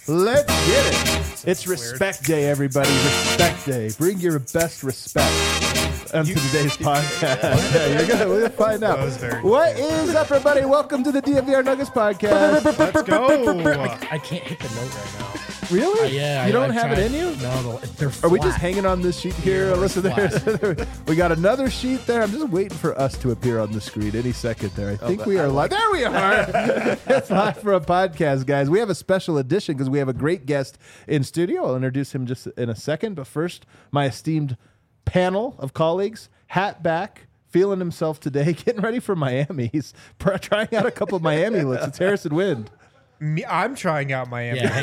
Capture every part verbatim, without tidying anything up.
Let's get it. It's Respect Day, everybody. Respect Day. Bring your best respect onto today's podcast. Yeah, you're gonna we'll find out. What is up, everybody? Welcome to the D N V R Nuggets podcast. Let's go. I, I can't hit the note right now. Really? Uh, yeah. You I, don't I've have tried. it in you? No, they're Are we just flat. hanging on this sheet here? Yeah, Listen, it's there. We got another sheet there. I'm just waiting for us to appear on the screen any second there. I think we are live. There we are. It's live for a podcast, guys. We have a special edition because we have a great guest in studio. I'll introduce him just in a second. But first, my esteemed panel of colleagues, hat back, feeling himself today, getting ready for Miami. He's pr- trying out a couple of Miami looks. It's Harrison Wind. Me, I'm trying out Miami. Yeah, hang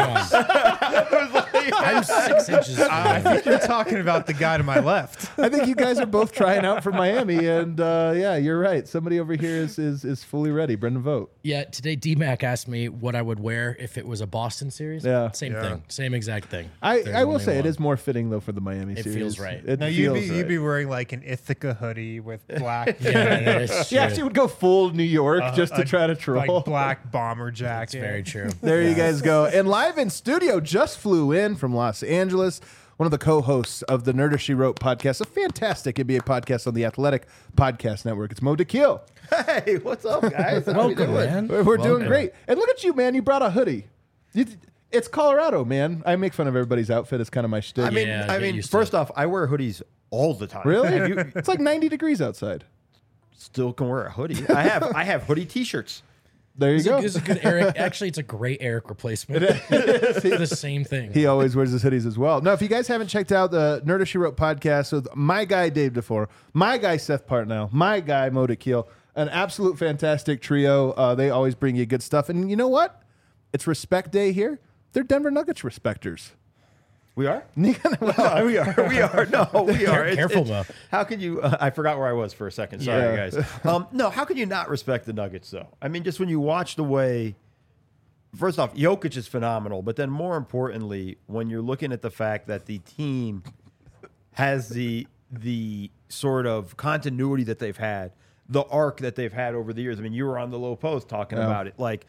on. I'm six inches. I think you're talking about the guy to my left. I think you guys are both trying out for Miami, and uh, yeah, you're right. Somebody over here is is, is fully ready. Brendan Vogt. Yeah, today D-Mac asked me what I would wear if it was a Boston series. Yeah. Same Yeah. thing. Same exact thing. I, There's I will only say it one. is more fitting though for the Miami It series. feels right. It No, you'd feels be right. you'd be wearing like an Ithaca hoodie with black. Yeah, that is She true. actually would go full New York uh, just to a- try to troll. like black bomber jacket. It's very true. There you guys go. And live in studio, just flew in from Los Angeles, one of the co-hosts of the Nerder She Wrote podcast, a fantastic N B A podcast on the Athletic Podcast Network. It's Mo DeKeel. Hey, what's up, guys? How we Welcome, doing? man. We're, we're doing Welcome. great. And look at you, man. You brought a hoodie. You, it's Colorado, man. I make fun of everybody's outfit. It's kind of my shtick. I mean, Yeah, I get mean, used to first it. off, I wear hoodies all the time. really? If you It's like ninety degrees outside. still can wear a hoodie. I have I have hoodie T-shirts. There you It's go. a, it's a good Eric. Actually, it's a great Eric replacement. the same thing. He always wears his hoodies as well. Now, if you guys haven't checked out the Nerder She Wrote podcast with my guy Dave DeFore, my guy Seth Partnow, my guy Mo DeKeel, an absolute fantastic trio. Uh, they always bring you good stuff. And you know what? It's Respect Day here. They're Denver Nuggets respecters. We are. Well, we are. We are. No, we are. It's- Careful, it's- Mo. How can you? Uh, I forgot where I was for a second. Sorry, Yeah. guys. Um, no, how can you not respect the Nuggets though? I mean, just when you watch the way. First off, Jokic is phenomenal, but then more importantly, when you're looking at the fact that the team has the the sort of continuity that they've had, the arc that they've had over the years. I mean, you were on the Low Post talking Yeah. about it. Like,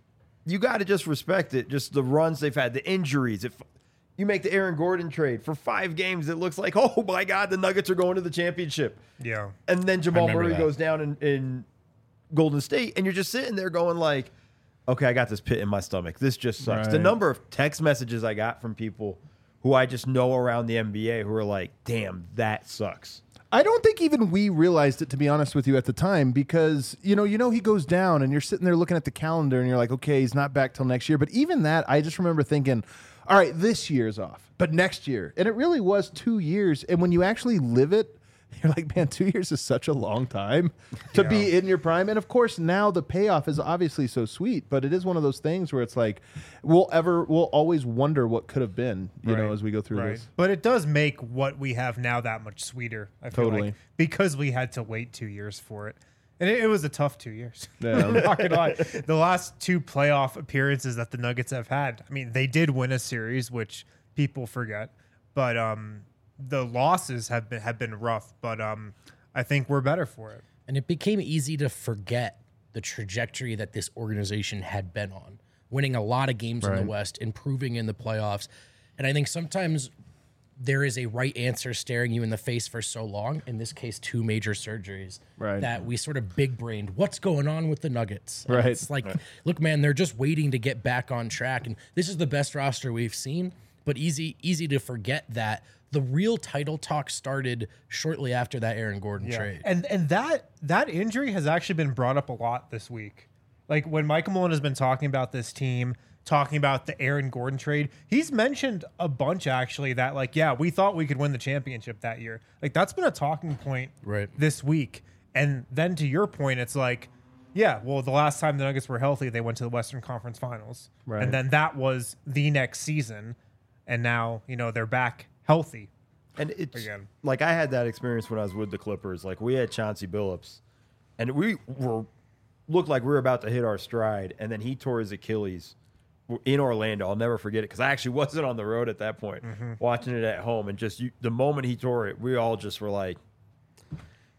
you got to just respect it. Just the runs they've had, the injuries. If you make the Aaron Gordon trade for five games, it looks like, oh my God, the Nuggets are going to the championship. Yeah. And then Jamal remember Murray that. goes down in, in Golden State, and you're just sitting there going like, okay, I got this pit in my stomach. This just sucks. The Right. number of text messages I got from people who I just know around the N B A who are like, damn, that sucks. I don't think even we realized it, to be honest with you, at the time, because you know, you know, he goes down, and you're sitting there looking at the calendar, and you're like, okay, he's not back till next year. But even that, I just remember thinking, all right, this year's off, but next year, and it really was two years. And when you actually live it, you're like, man, two years is such a long time to be in your prime. And of course, now the payoff is obviously so sweet, but it is one of those things where it's like, we'll ever, we'll always wonder what could have been, you know, Right. as we go through Right. this. But it does make what we have now that much sweeter. I feel Totally. like, because we had to wait two years for it. And it, it was a tough two years. Yeah. I'm not gonna lie. The last two playoff appearances that the Nuggets have had, I mean, they did win a series, which people forget. But um, the losses have been have been rough. But um, I think we're better for it. And it became easy to forget the trajectory that this organization had been on, winning a lot of games in Right. the West, improving in the playoffs. And I think sometimes there is a right answer staring you in the face for so long, in this case, two major surgeries, Right. that we sort of big-brained, what's going on with the Nuggets? And Right. It's like, look, man, they're just waiting to get back on track. And this is the best roster we've seen, but easy easy to forget that the real title talk started shortly after that Aaron Gordon trade. And and that that injury has actually been brought up a lot this week. Like when Michael Malone has been talking about this team, talking about the Aaron Gordon trade, he's mentioned a bunch actually that like, yeah, we thought we could win the championship that year. Like that's been a talking point Right. this week. And then to your point, it's like, yeah, well, the last time the Nuggets were healthy, they went to the Western Conference Finals. Right. And then that was the next season. And now, you know, they're back healthy. And it's Again. like I had that experience when I was with the Clippers. Like we had Chauncey Billups, and we were looked like we were about to hit our stride, and then he tore his Achilles in Orlando. I'll never forget it because I actually wasn't on the road at that point, watching it at home, and just you, the moment he tore it, we all just were like,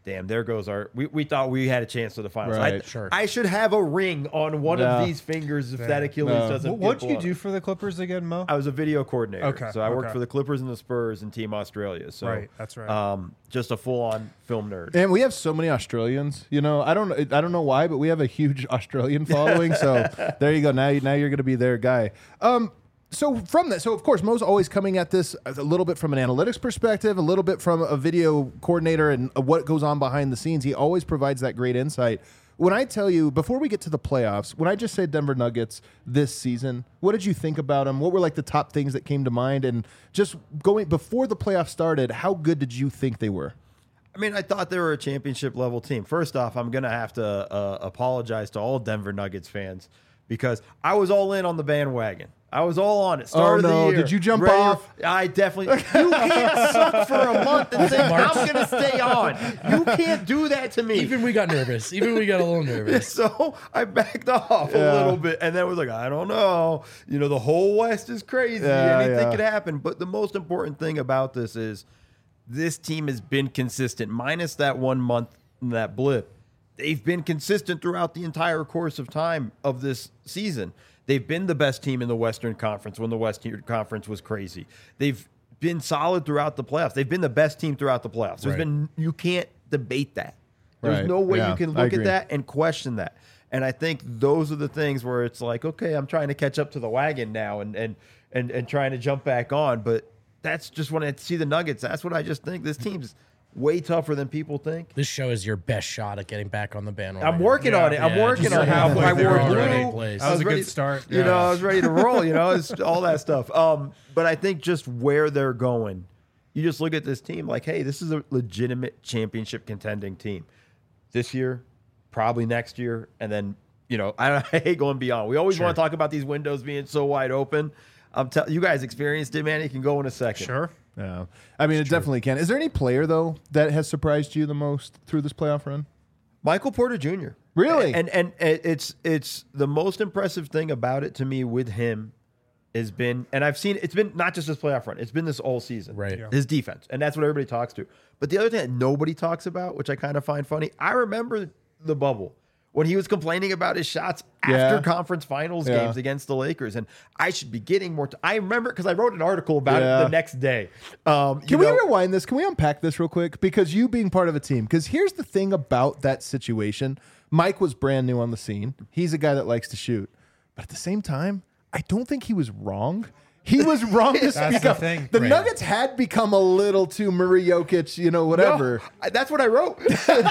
damn, there goes our. We, we thought we had a chance to the finals. Right, I, sure. I should have a ring on one Yeah. of these fingers if Yeah. that Achilles No. doesn't. What get did you blown. do for the Clippers again, Mo? I was a video coordinator. Okay, So I worked okay. for the Clippers and the Spurs and Team Australia. So Right, that's right. Um, just a full on film nerd. And we have so many Australians. You know, I don't I don't know why, but we have a huge Australian following. So there you go. Now you now you're going to be their guy. Um, so from that, so of course, Mo's always coming at this a little bit from an analytics perspective, a little bit from a video coordinator and what goes on behind the scenes. He always provides that great insight. When I tell you, before we get to the playoffs, when I just say Denver Nuggets this season, what did you think about them? What were like the top things that came to mind? And just going before the playoffs started, how good did you think they were? I mean, I thought they were a championship level team. First off, I'm going to have to uh, apologize to all Denver Nuggets fans because I was all in on the bandwagon. I was all on it. Start Oh, of no. the year. Did you jump Ready- off? I definitely. You can't suck for a month and say, I'm going to stay on. You can't do that to me. Even we got nervous. Even we got a little nervous. So I backed off Yeah. a little bit and then was like, I don't know. You know, the whole West is crazy. Yeah, Anything yeah. could happen. But the most important thing about this is this team has been consistent, minus that one month, that blip. They've been consistent throughout the entire course of time of this season. They've been the best team in the Western Conference when the Western Conference was crazy. They've been solid throughout the playoffs. They've been the best team throughout the playoffs. There's Right. been you can't debate that. There's Right. no way Yeah, you can I look agree. at that and question that. And I think those are the things where it's like, okay, I'm trying to catch up to the wagon now and and and, and trying to jump back on. But that's just when I see the Nuggets. That's what I just think. This team's way tougher than people think. This show is your best shot at getting back on the bandwagon. I'm working Yeah. on it. I'm Yeah, working just on it. halfway I through wore already. blue. Place. That I was a ready- good start. You Yeah. know, I was ready to roll. You know, it's all that stuff. Um, but I think just where they're going, you just look at this team like, hey, this is a legitimate championship contending team. This year, probably next year, and then you know, I, I hate going beyond. We always Sure. want to talk about these windows being so wide open. I'm telling you guys experienced it, man. You can go in a second. Sure. Yeah, I mean, it definitely can. Is there any player though that has surprised you the most through this playoff run? Michael Porter Junior Really? And and, and it's it's the most impressive thing about it to me with him has been, and I've seen it's been not just this playoff run, it's been this all season. Right. Yeah. His defense, and that's what everybody talks to. But the other thing that nobody talks about, which I kind of find funny, I remember the bubble when he was complaining about his shots after Yeah. conference finals Yeah. games against the Lakers, and I should be getting more. T- I remember because I wrote an article about Yeah. it the next day. Um, you Can we know- rewind this? Can we unpack this real quick? Because you being part of a team, because here's the thing about that situation. Mike was brand new on the scene. He's a guy that likes to shoot. But at the same time, I don't think he was wrong. He was wrong to That's speak the up. thing. The Right. Nuggets had become a little too Murray Jokic, you know, whatever. No, I- that's what I wrote. that's what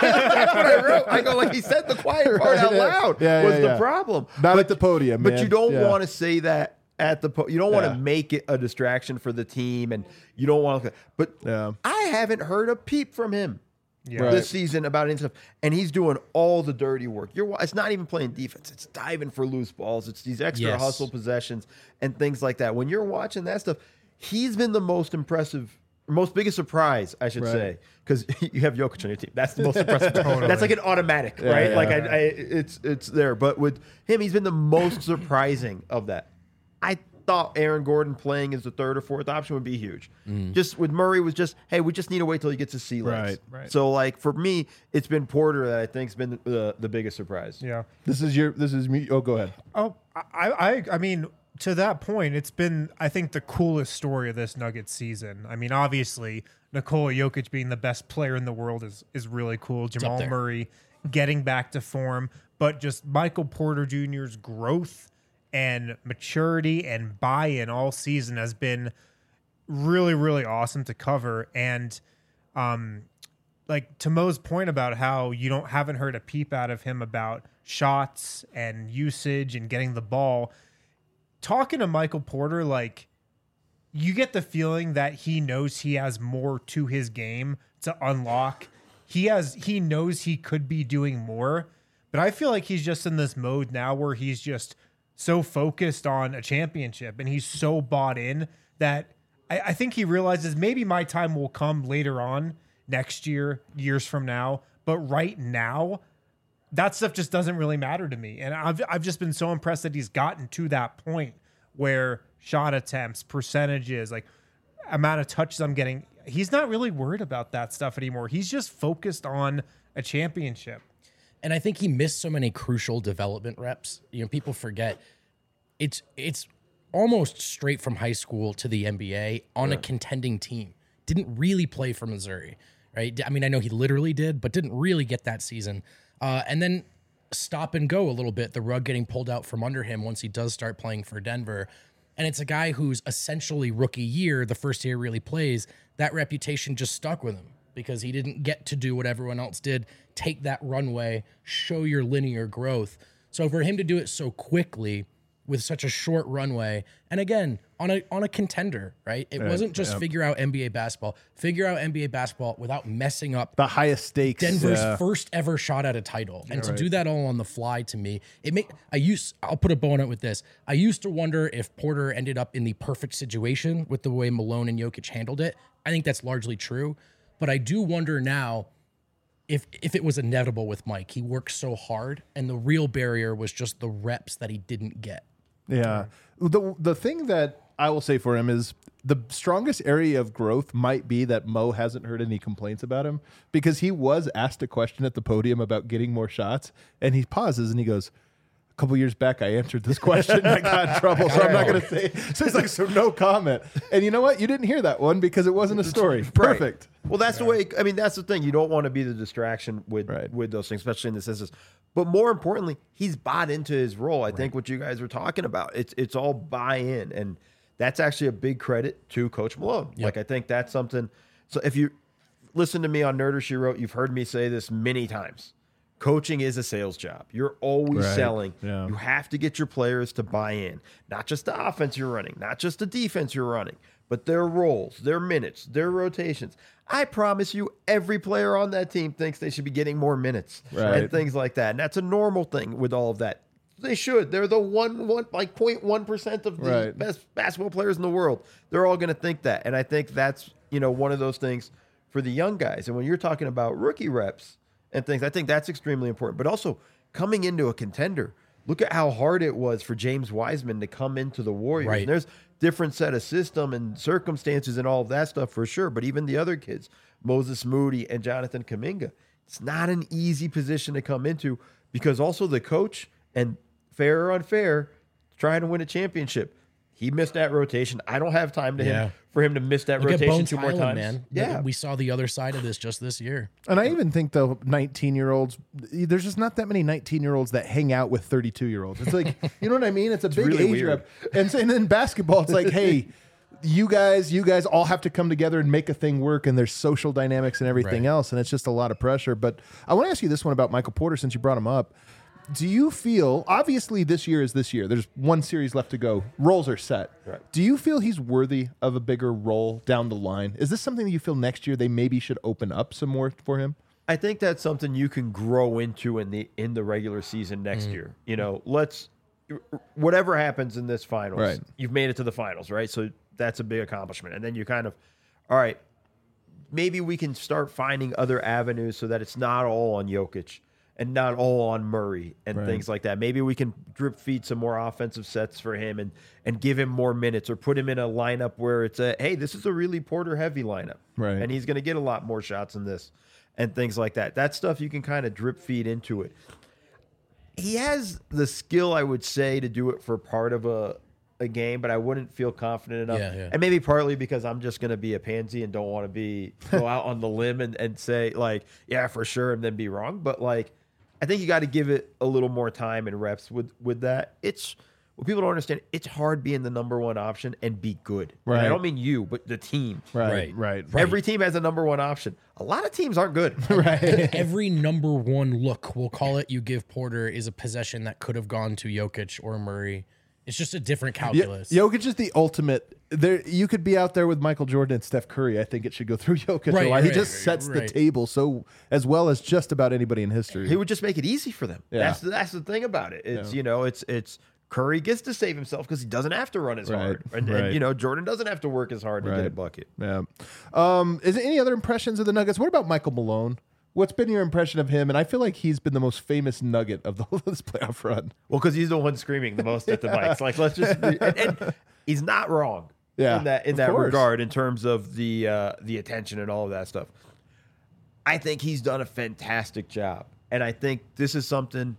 I wrote. I go like he said the quiet part out loud Yeah, was yeah, the yeah. problem. Not But- at the podium, But man. you don't Yeah. want to say that at the po- you don't want to Yeah. make it a distraction for the team, and you don't want to. But Yeah. I haven't heard a peep from him Yeah. Right. this season about any stuff, and he's doing all the dirty work. You're it's not even playing defense; it's diving for loose balls. It's these extra Yes. hustle possessions and things like that. When you're watching that stuff, he's been the most impressive. Most biggest surprise, I should Right. say, because you have Jokic on your team. That's the most impressive. That's like an automatic, right? yeah, like yeah. I, I, it's it's there. But with him, he's been the most surprising of that. I thought Aaron Gordon playing as the third or fourth option would be huge. Just with Murray was just, hey, we just need to wait till he gets his sea legs. Right, right. So like for me, it's been Porter that I think's been the the biggest surprise. Yeah. This is your, this is me. Oh, go ahead. Oh, I, I, I mean, to that point, it's been, I think, the coolest story of this Nuggets season. I mean, obviously, Nikola Jokic being the best player in the world is is really cool. Jamal there. Murray getting back to form, but just Michael Porter Junior's growth and maturity and buy-in all season has been really, really awesome to cover. And um, like to Mo's point about how you don't haven't heard a peep out of him about shots and usage and getting the ball. Talking to Michael Porter, like you get the feeling that he knows he has more to his game to unlock. He has he knows he could be doing more, but I feel like he's just in this mode now where he's just so focused on a championship and he's so bought in that I, I think he realizes maybe my time will come later on next year, years from now. But right now, that stuff just doesn't really matter to me. And I've I've just been so impressed that he's gotten to that point where shot attempts, percentages, like amount of touches I'm getting, he's not really worried about that stuff anymore. He's just focused on a championship. And I think he missed so many crucial development reps. You know, people forget it's it's almost straight from high school to the N B A on right. a contending team. Didn't really play for Missouri, right? I mean, I know he literally did, but didn't really get that season. Uh, and then stop and go a little bit, the rug getting pulled out from under him once he does start playing for Denver. And it's a guy who's essentially rookie year, the first year he really plays, that reputation just stuck with him because he didn't get to do what everyone else did, take that runway, show your linear growth. So for him to do it so quickly with such a short runway, and again, on a on a contender, right? It right, wasn't just yeah. figure out N B A basketball, figure out N B A basketball without messing up the highest stakes. Denver's yeah. first ever shot at a title. And yeah, to right. do that all on the fly, to me, it make I used I'll put a bow on it with this. I used to wonder if Porter ended up in the perfect situation with the way Malone and Jokic handled it. I think that's largely true. But I do wonder now if if it was inevitable with Mike. He worked so hard, and the real barrier was just the reps that he didn't get. Yeah. The the thing that I will say for him is the strongest area of growth might be that Mo hasn't heard any complaints about him, because he was asked a question at the podium about getting more shots, and he pauses and he goes, a couple years back, I answered this question and I got in trouble, so I'm not going to say. So he's like, so no comment. And you know what? You didn't hear that one because it wasn't a story. Perfect. Right. Well, that's the way, I mean, that's the thing. You don't want to be the distraction with, right. with those things, especially in this instance. But more importantly, he's bought into his role. I right. think what you guys were talking about, it's it's all buy-in. And that's actually a big credit to Coach Malone. Yep. Like, I think that's something. So if you listen to me on Nerder She Wrote, you've heard me say this many times. Coaching is a sales job. You're always right. selling. Yeah. You have to get your players to buy in. Not just the offense you're running, not just the defense you're running, but their roles, their minutes, their rotations. I promise you, every player on that team thinks they should be getting more minutes right. and things like that. And that's a normal thing with all of that. They should. They're the one, one like zero point one percent of the right. best basketball players in the world. They're all going to think that. And I think that's, you know, one of those things for the young guys. And when you're talking about rookie reps and things, I think that's extremely important. But also coming into a contender, look at how hard it was for James Wiseman to come into the Warriors. Right. And there's different set of system and circumstances and all of that stuff for sure. But even the other kids, Moses Moody and Jonathan Kuminga, it's not an easy position to come into, because also the coach, and fair or unfair, trying to win a championship. He missed that rotation. I don't have time to Yeah. him for him to miss that Look at rotation Bones two more Highland, times. man. Yeah. We saw the other side of this just this year. And I even think, though, nineteen-year-olds, there's just not that many nineteen-year-olds that hang out with thirty-two-year-olds. It's like, you know what I mean? It's a big really age weird. rep. And, so, and then basketball, it's like, hey, you guys, you guys all have to come together and make a thing work, and there's social dynamics and everything Right. else, and it's just a lot of pressure. But I want to ask you this one about Michael Porter, since you brought him up. Do you feel, obviously this year is this year, there's one series left to go, roles are set. Right. Do you feel he's worthy of a bigger role down the line? Is this something that you feel next year they maybe should open up some more for him? I think that's something you can grow into in the in the regular season next Mm. year. You know, let's whatever happens in this finals, Right. you've made it to the finals, right? So that's a big accomplishment. And then you kind of, all right, maybe we can start finding other avenues so that it's not all on Jokic and not all on Murray and Right. things like that. Maybe we can drip feed some more offensive sets for him and and give him more minutes, or put him in a lineup where it's a, hey, this is a really Porter heavy lineup. Right. And he's going to get a lot more shots in this and things like that. That stuff you can kind of drip feed into it. He has the skill, I would say, to do it for part of a a game, but I wouldn't feel confident enough. Yeah, yeah. And maybe partly because I'm just going to be a pansy and don't want to be go out on the limb and, and say, like, yeah, for sure, and then be wrong. But, like, I think you got to give it a little more time and reps with, with that. It's what people don't understand. It's hard being the number one option and be good. And Right. I don't mean you, but the team. Right, Right. right. Every team has a number one option. A lot of teams aren't good. Every number one look, we'll call it, you give Porter is a possession that could have gone to Jokic or Murray. It's just a different Yo- calculus. Jokic is the ultimate. There, you could be out there with Michael Jordan and Steph Curry. I think it should go through Jokic. Right, a lot. He right, just right, sets the right. table so as well as just about anybody in history. He would just make it easy for them. Yeah. That's that's the thing about it. It's Yeah. you know, it's it's Curry gets to save himself because he doesn't have to run as Right, hard, and, right. and you know Jordan doesn't have to work as hard to get a Right. bucket. Yeah. Um, is there any other impressions of the Nuggets? What about Michael Malone? What's been your impression of him? And I feel like he's been the most famous Nugget of the whole of this playoff run. Well, because he's the one screaming the most at the mics. Like let's just, and, and he's not wrong. Yeah, in that in of that course. regard, in terms of the uh, the attention and all of that stuff. I think he's done a fantastic job, and I think this is something,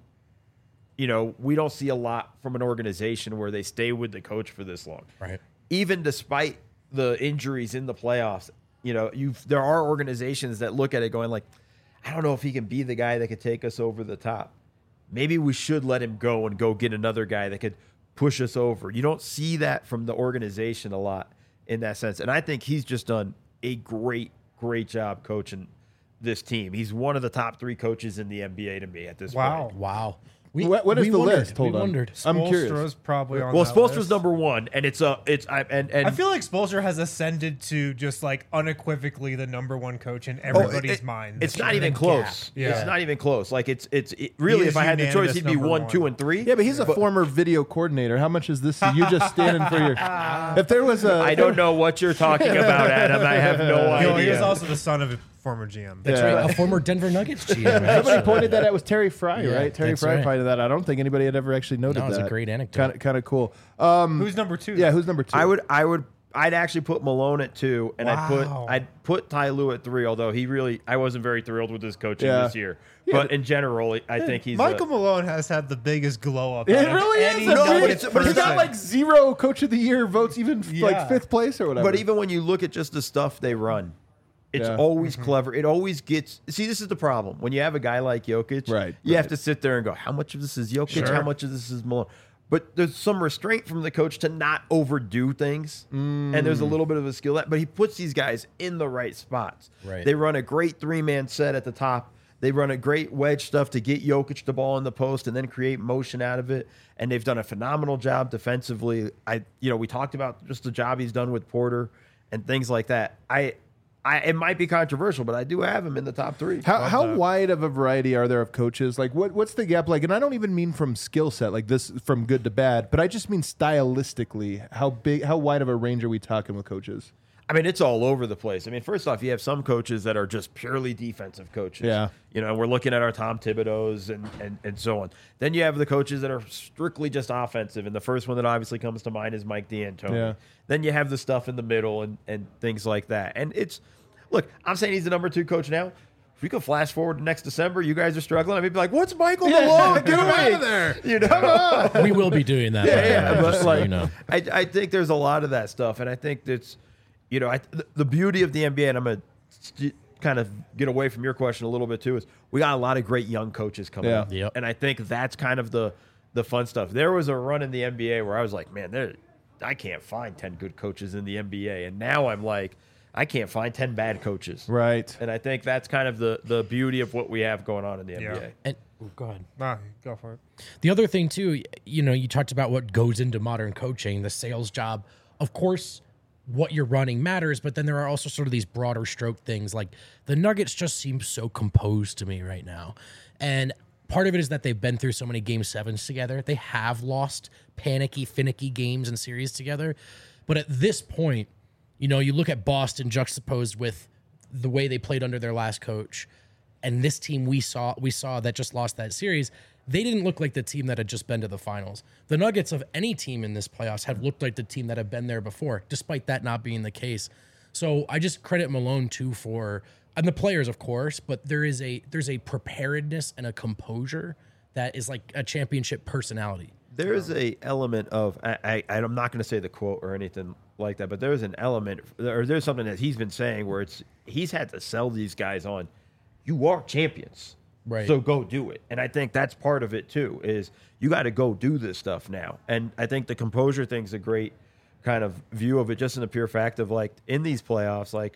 you know, we don't see a lot from an organization where they stay with the coach for this long. Right. Even despite the injuries in the playoffs, you know, you there are organizations that look at it going like, I don't know if he can be the guy that could take us over the top. Maybe we should let him go and go get another guy that could push us over. You don't see that from the organization a lot in that sense. And I think he's just done a great, great job coaching this team. He's one of the top three coaches in the N B A to me at this Wow. point. Wow. We, What- what is we the wondered, list? Hold we on. wondered. I'm curious. Spoelstra's probably on Well, that Spoelstra's list. number one, and it's a it's I and and I feel like Spoelstra has ascended to just like unequivocally the number one coach in everybody's Oh, it- mind. It's this not year. even gap. close. Yeah. It's not even close. Like it's it's it, really, is if I had the choice, unanimous he'd be number one, one. two, and three. Yeah, but he's a former video coordinator. How much is this? You just standing for your. If there was a, I don't know what you're talking about, Adam. I have no You know, he idea. is also the son of a former G M. That's Yeah. right. A former Denver Nuggets G M. Somebody actually. pointed that out was Terry Fry, Yeah, right? Terry that's Fry right. pointed that. out. I don't think anybody had ever actually noted No, it was that. a great anecdote. Kind of, kind of cool. Um, Who's number two? yeah, who's number two? I would, I would, I'd actually put Malone at two, and I'd put, Wow. I'd put Ty Lue at three. Although he really, I wasn't very thrilled with his coaching Yeah. this year. Yeah, but in general, I think he's Michael a, Malone has had the biggest glow up. It out of really any is. a No, big- but it's- but he's got person. like zero Coach of the Year votes, even f- Yeah. like fifth place or whatever. But even when you look at just the stuff they run, it's Yeah. always Mm-hmm. clever. It always gets. See, this is the problem. When you have a guy like Jokic, Right, you have right. to sit there and go, how much of this is Jokic? Sure. How much of this is Malone? But there's some restraint from the coach to not overdo things, and there's a little bit of a skill that. But he puts these guys in the right spots. Right. They run a great three man set at the top. They run a great wedge stuff to get Jokic the ball in the post and then create motion out of it. And they've done a phenomenal job defensively. I, you know, we talked about just the job he's done with Porter and things like that. I, I, it might be controversial, but I do have him in the top three. How how wide of a variety are there of coaches? Like what what's the gap like? And I don't even mean from skill set, like this from good to bad, but I just mean stylistically. How big, how wide of a range are we talking with coaches? I mean, it's all over the place. I mean, first off, you have some coaches that are just purely defensive coaches. Yeah. You know, we're looking at our Tom Thibodeau's and, and, and so on. Then you have the coaches that are strictly just offensive. And the first one that obviously comes to mind is Mike D'Antoni. Yeah. Then you have the stuff in the middle and, and things like that. And it's, look, I'm saying he's the number two coach now. If we could flash forward to next December, you guys are struggling. I'd be like, what's Michael Malone Get him out doing? of there. You know? We will be doing that. by the Yeah, way, yeah, just but so like, you know. I, I think there's a lot of that stuff, and I think that's, you know, I, the, the beauty of the N B A, and I'm gonna st- kind of get away from your question a little bit too, is we got a lot of great young coaches coming Yeah. up, Yep. and I think that's kind of the the fun stuff. There was a run in the N B A where I was like, man, there, I can't find ten good coaches in the N B A, and now I'm like, I can't find ten bad coaches, Right. and I think that's kind of the the beauty of what we have going on in the N B A. Yeah. And oh, go ahead. Nah, go for it. The other thing too, you know, you talked about what goes into modern coaching, the sales job. Of course, what you're running matters, but then there are also sort of these broader stroke things. Like the Nuggets just seem so composed to me right now. And part of it is that they've been through so many game sevens together. They have lost panicky, finicky games and series together. But at this point, you know, you look at Boston juxtaposed with the way they played under their last coach, and this team we saw we saw that just lost that series, they didn't look like the team that had just been to the finals. The Nuggets of any team in this playoffs have looked like the team that have been there before, despite that not being the case. So I just credit Malone too for, and the players of course, but there is a there's a preparedness and a composure that is like a championship personality. There is a element of I, I I'm not going to say the quote or anything like that, but there's an element or there's something that he's been saying where it's he's had to sell these guys on. You are champions, Right. So go do it, and I think that's part of it too. Is you got to go do this stuff now, and I think the composure thing's a great kind of view of it, just in the pure fact of like in these playoffs, like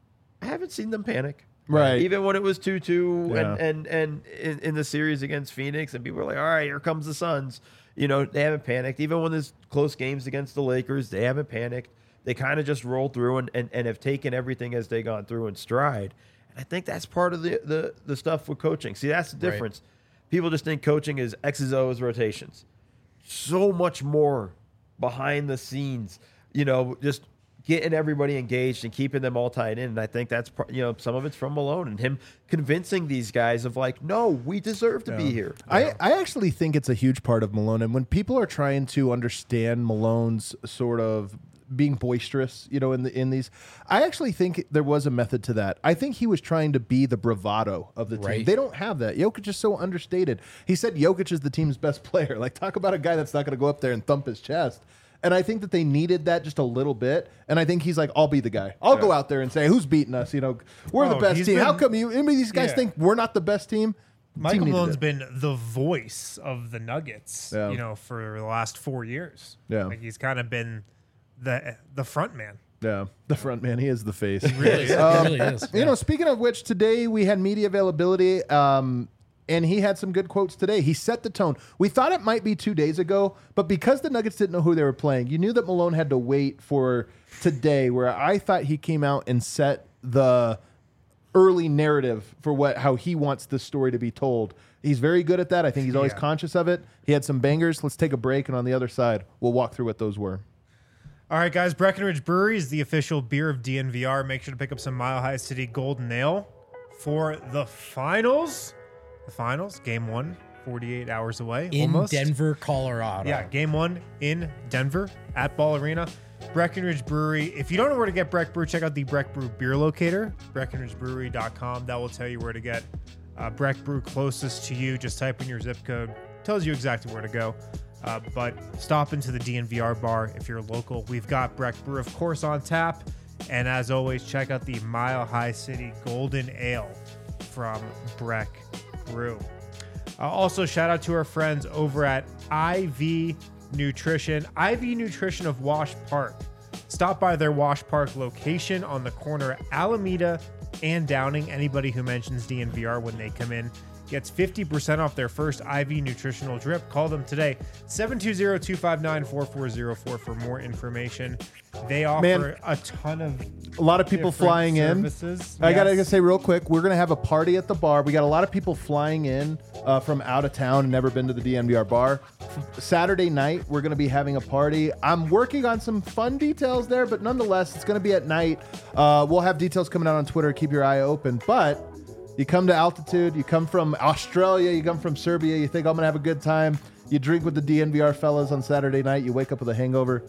I haven't seen them panic. Right. Even when it was two two Yeah. and and and in, in the series against Phoenix, and people were like, all right, here comes the Suns. You know, they haven't panicked. Even when there's close games against the Lakers, they haven't panicked. They kind of just rolled through and, and, and have taken everything as they gone through in stride. And I think that's part of the, the, the stuff with coaching. See, that's the Right. difference. People just think coaching is X's, O's, rotations. So much more behind the scenes, you know, just getting everybody engaged and keeping them all tied in. And I think that's, par- you know, some of it's from Malone and him convincing these guys of like, no, we deserve to be here. I, I actually think it's a huge part of Malone. And when people are trying to understand Malone's sort of being boisterous, you know, in the in these. I actually think there was a method to that. I think he was trying to be the bravado of the team. Right. They don't have that. Jokic is so understated. He said Jokic is the team's best player. Like, talk about a guy that's not going to go up there and thump his chest. And I think that they needed that just a little bit. And I think he's like, I'll be the guy. I'll go out there and say, who's beating us? You know, we're the Oh, best he's team. been- How come you? Any of these guys Yeah. think we're not the best team? The Michael team needed Malone's it. been the voice of the Nuggets, Yeah. you know, for the last four years. Yeah. Like he's kind of been the the front man. Yeah, the front man. He is the face. Really, is. Um, it really is. You know, speaking of which, today we had media availability, um, and he had some good quotes today. He set the tone. We thought it might be two days ago, but because the Nuggets didn't know who they were playing, you knew that Malone had to wait for today, where I thought he came out and set the early narrative for what how he wants this story to be told. He's very good at that. I think he's always Yeah. conscious of it. He had some bangers. Let's take a break, and on the other side, we'll walk through what those were. All right, guys. Breckenridge Brewery is the official beer of D N V R. Make sure to pick up some Mile High City Golden Ale for the finals. The finals, game one, forty-eight hours away. In almost. Denver, Colorado. Yeah, game one in Denver at Ball Arena. Breckenridge Brewery. If you don't know where to get Breck Brew, check out the Breck Brew beer locator, breckenridge brewery dot com. That will tell you where to get uh, Breck Brew closest to you. Just type in your zip code. Tells you exactly where to go. Uh, but stop into the D N V R bar if you're local. We've got Breck Brew, of course, on tap. And as always, check out the Mile High City Golden Ale from Breck Brew. Uh, also, shout out to our friends over at I V Nutrition. I V Nutrition of Wash Park. Stop by their Wash Park location on the corner of Alameda and Downing. Anybody who mentions D N V R when they come in gets fifty percent off their first I V nutritional drip. Call them today, seven two zero, two five nine, four four zero four for more information. They offer Man, a ton of A lot of people different flying services. in. I gotta Yes. say real quick, we're gonna have a party at the bar. We got a lot of people flying in uh, from out of town and never been to the D N V R bar. Saturday night, we're gonna be having a party. I'm working on some fun details there, but nonetheless, it's gonna be at night. Uh, we'll have details coming out on Twitter. Keep your eye open. But you come to altitude, you come from Australia, you come from Serbia, you think I'm gonna have a good time. You drink with the D N V R fellas on Saturday night. You wake up with a hangover.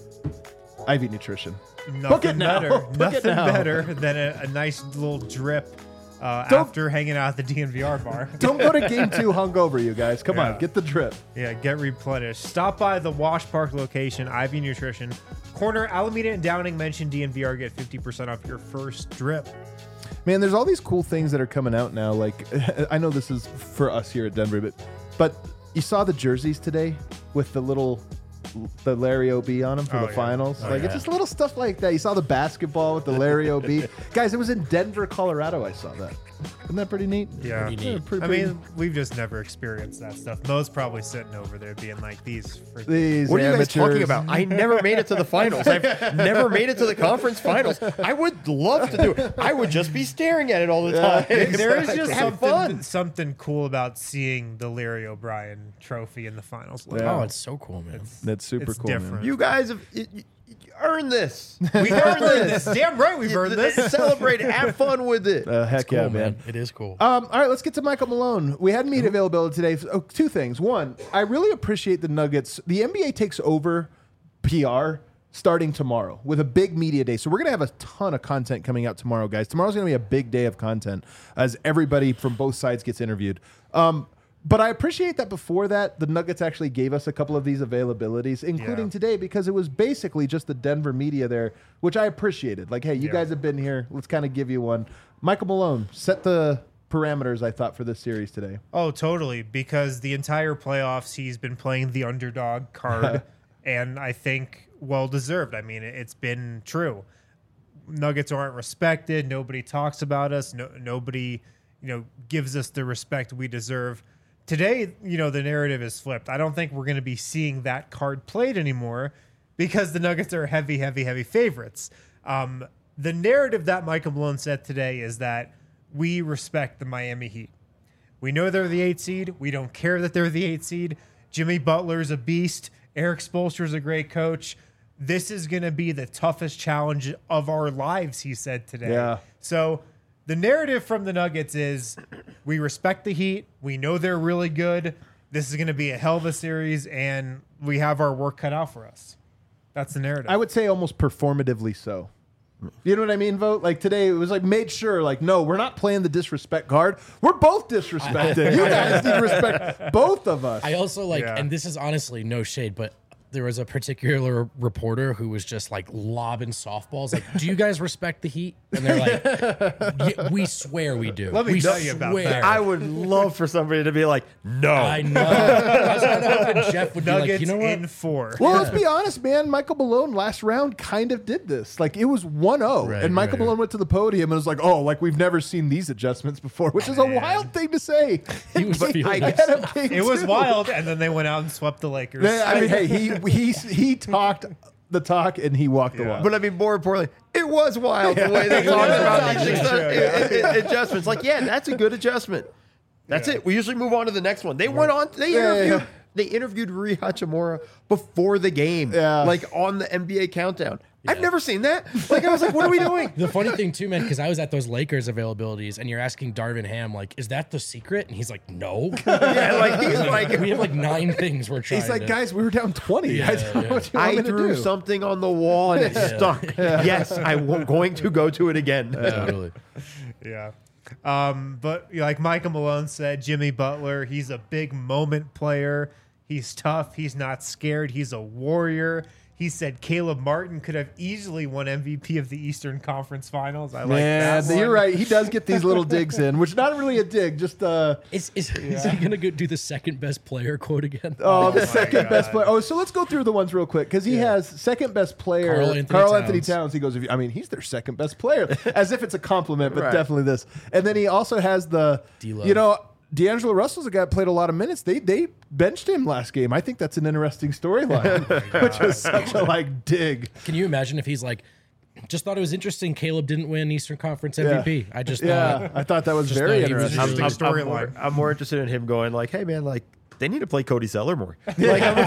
I V Nutrition. Nothing Book it now. better. Book it Nothing now. better than a, a nice little drip uh, Don't- after hanging out at the D N V R bar. Don't go to game two hungover, you guys. Come Yeah. on, get the drip. Yeah, get replenished. Stop by the Wash Park location, I V Nutrition. Corner Alameda and Downing, mention D N V R, get fifty percent off your first drip. Man, there's all these cool things that are coming out now. Like, I know this is for us here at Denver, but but you saw the jerseys today with the little the Larry O B on them for Oh, the yeah. finals. Oh, like, it's yeah. just little stuff like that. You saw the basketball with the Larry O B. Guys, it was in Denver, Colorado. I saw that. Isn't that pretty neat? Yeah. Pretty neat. pretty, I pretty- mean, we've just never experienced that stuff. Mo's probably sitting over there being like, these freaking these What are you guys amateurs. talking about? I never made it to the finals. I've never made it to the conference finals. I would love to do it. I would just be staring at it all the time. There is just Have something fun. something cool about seeing the Larry O'Brien trophy in the finals. Yeah. Oh, it's so cool, man. That's super It's cool. man. different. You guys have you, you, you earned this. We earned this. Damn right we've earned this. Celebrate it. Have fun with it. Uh, heck Cool, yeah, man. man. It is cool. Um, all right, let's get to Michael Malone. We had media availability today. Oh, two things. One, I really appreciate the Nuggets. The N B A takes over P R starting tomorrow with a big media day. So we're going to have a ton of content coming out tomorrow, guys. Tomorrow's going to be a big day of content as everybody from both sides gets interviewed. Um, but I appreciate that before that, the Nuggets actually gave us a couple of these availabilities, including Yeah. today, because it was basically just the Denver media there, which I appreciated. Like, hey, you Yeah. guys have been here. Let's kind of give you one. Michael Malone, set the parameters, I thought, for this series today. Oh, totally. Because the entire playoffs, he's been playing the underdog card, and I think well deserved. I mean, it- it's been true. Nuggets aren't respected. Nobody talks about us. No, nobody, you know, gives us the respect we deserve. Today, you know, the narrative is flipped. I don't think we're going to be seeing that card played anymore because the Nuggets are heavy, heavy, heavy favorites. Um, the narrative that Michael Malone said today is that we respect the Miami Heat. We know they're the eight seed. We don't care that they're the eight seed. Jimmy Butler's a beast. Eric Spoelstra's a great coach. This is going to be the toughest challenge of our lives, he said today. Yeah. So the narrative from the Nuggets is we respect the Heat. We know they're really good. This is going to be a hell of a series, and we have our work cut out for us. That's the narrative. I would say almost performatively so. You know what I mean, Vote? Like today, it was like made sure, like, no, we're not playing the disrespect card. We're both disrespected. You guys need to respect both of us. I also like, Yeah. and this is honestly no shade, but there was a particular reporter who was just like lobbing softballs. Like, do you guys respect the Heat? And they're like, "Yeah, we swear we do. Let me we tell you about that." I would love for somebody to be like, no. I know. I was kind of hoping Jeff would Nuggets be like, you know what? in four. Well, let's be honest, man. Michael Malone last round kind of did this. Like it was one oh, Right, and Michael right. Malone went to the podium and was like, "Oh, like we've never seen these adjustments before," which is a wild thing to say. He was feeling I it. get him, King, It was too. wild, and then they went out and swept the Lakers. Yeah, I mean, hey, he he he talked the talk and he walked the Yeah. walk. But I mean, more importantly, it was wild the way they talked about these True, adjust- i- i- adjustments. Like, yeah, that's a good adjustment. That's Yeah. it. We usually move on to the next one. They went on. They Yeah, yeah, interviewed. yeah. They interviewed Rui Hachimura before the game. Yeah. Like on the N B A countdown. I've never seen that. Like I was like, what are we doing? The funny thing too, man, because I was at those Lakers availabilities, and you're asking Darvin Ham, like, is that the secret? And he's like, no. Yeah, like he's like, we have like nine things we're trying. He's like, to, guys, we were down twenty. Yeah, I don't know yeah. what you want I me to threw do. something on the wall and it stuck. Yes, I'm going to go to it again. totally. Yeah. Um, but you know, like Michael Malone said, Jimmy Butler, he's a big moment player. He's tough. He's not scared. He's a warrior. He said Caleb Martin could have easily won M V P of the Eastern Conference Finals. I like Man, that. you're one. right. He does get these little digs in, which not really a dig, just uh Is, is, is he gonna go do the second best player quote again? oh, the my second best God. player. Oh, so let's go through the ones real quick because he has second best player, Karl Anthony Karl Anthony Towns. Towns. He goes, if you, I mean, he's their second best player, as if it's a compliment, but Right. definitely this. And then he also has the, D-Lo. you know, D'Angelo Russell's a guy that played a lot of minutes. They they benched him last game. I think that's an interesting storyline, which was such a like dig. Can you imagine if he's like, just thought it was interesting Caleb didn't win Eastern Conference M V P. I just Yeah, thought I thought that was Just very thought he was interesting. just- I'm, I'm, Interesting I'm, more, storyline. I'm more interested in him going like, hey man, like they need to play Cody Zeller more. Like, I'm,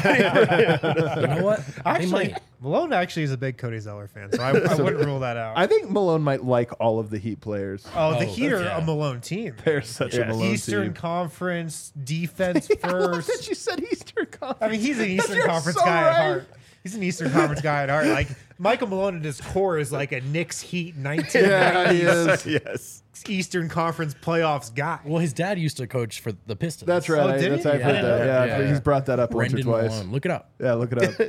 you know what? They Actually, might. Malone actually is a big Cody Zeller fan, so I, I wouldn't rule that out. I think Malone might like all of the Heat players. oh, the Oh, Heat are yeah. a Malone team. They're such a Yes. Malone Eastern team. Conference defense I love that first. you said Eastern Conference. I mean, he's an Eastern You're Conference so guy right. at heart. He's an Eastern Conference guy at heart. Like Michael Malone at his core is like a Knicks Heat nineteen Yeah, he nineties is. yes. Eastern Conference playoffs guy. Well, his dad used to coach for the Pistons. That's right. Oh, I, did that's he? I've Yeah, heard I that. know. Yeah, Yeah, he's yeah. brought that up Brendan once or twice. Malone. Look it up. Yeah, look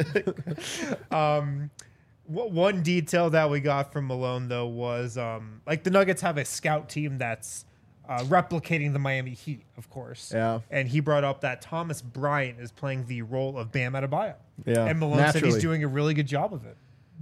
it up. Um, w- one detail that we got from Malone though was um, like the Nuggets have a scout team that's uh, replicating the Miami Heat, of course. Yeah. And he brought up that Thomas Bryant is playing the role of Bam Adebayo. Yeah, And Malone said naturally. he's doing a really good job of it.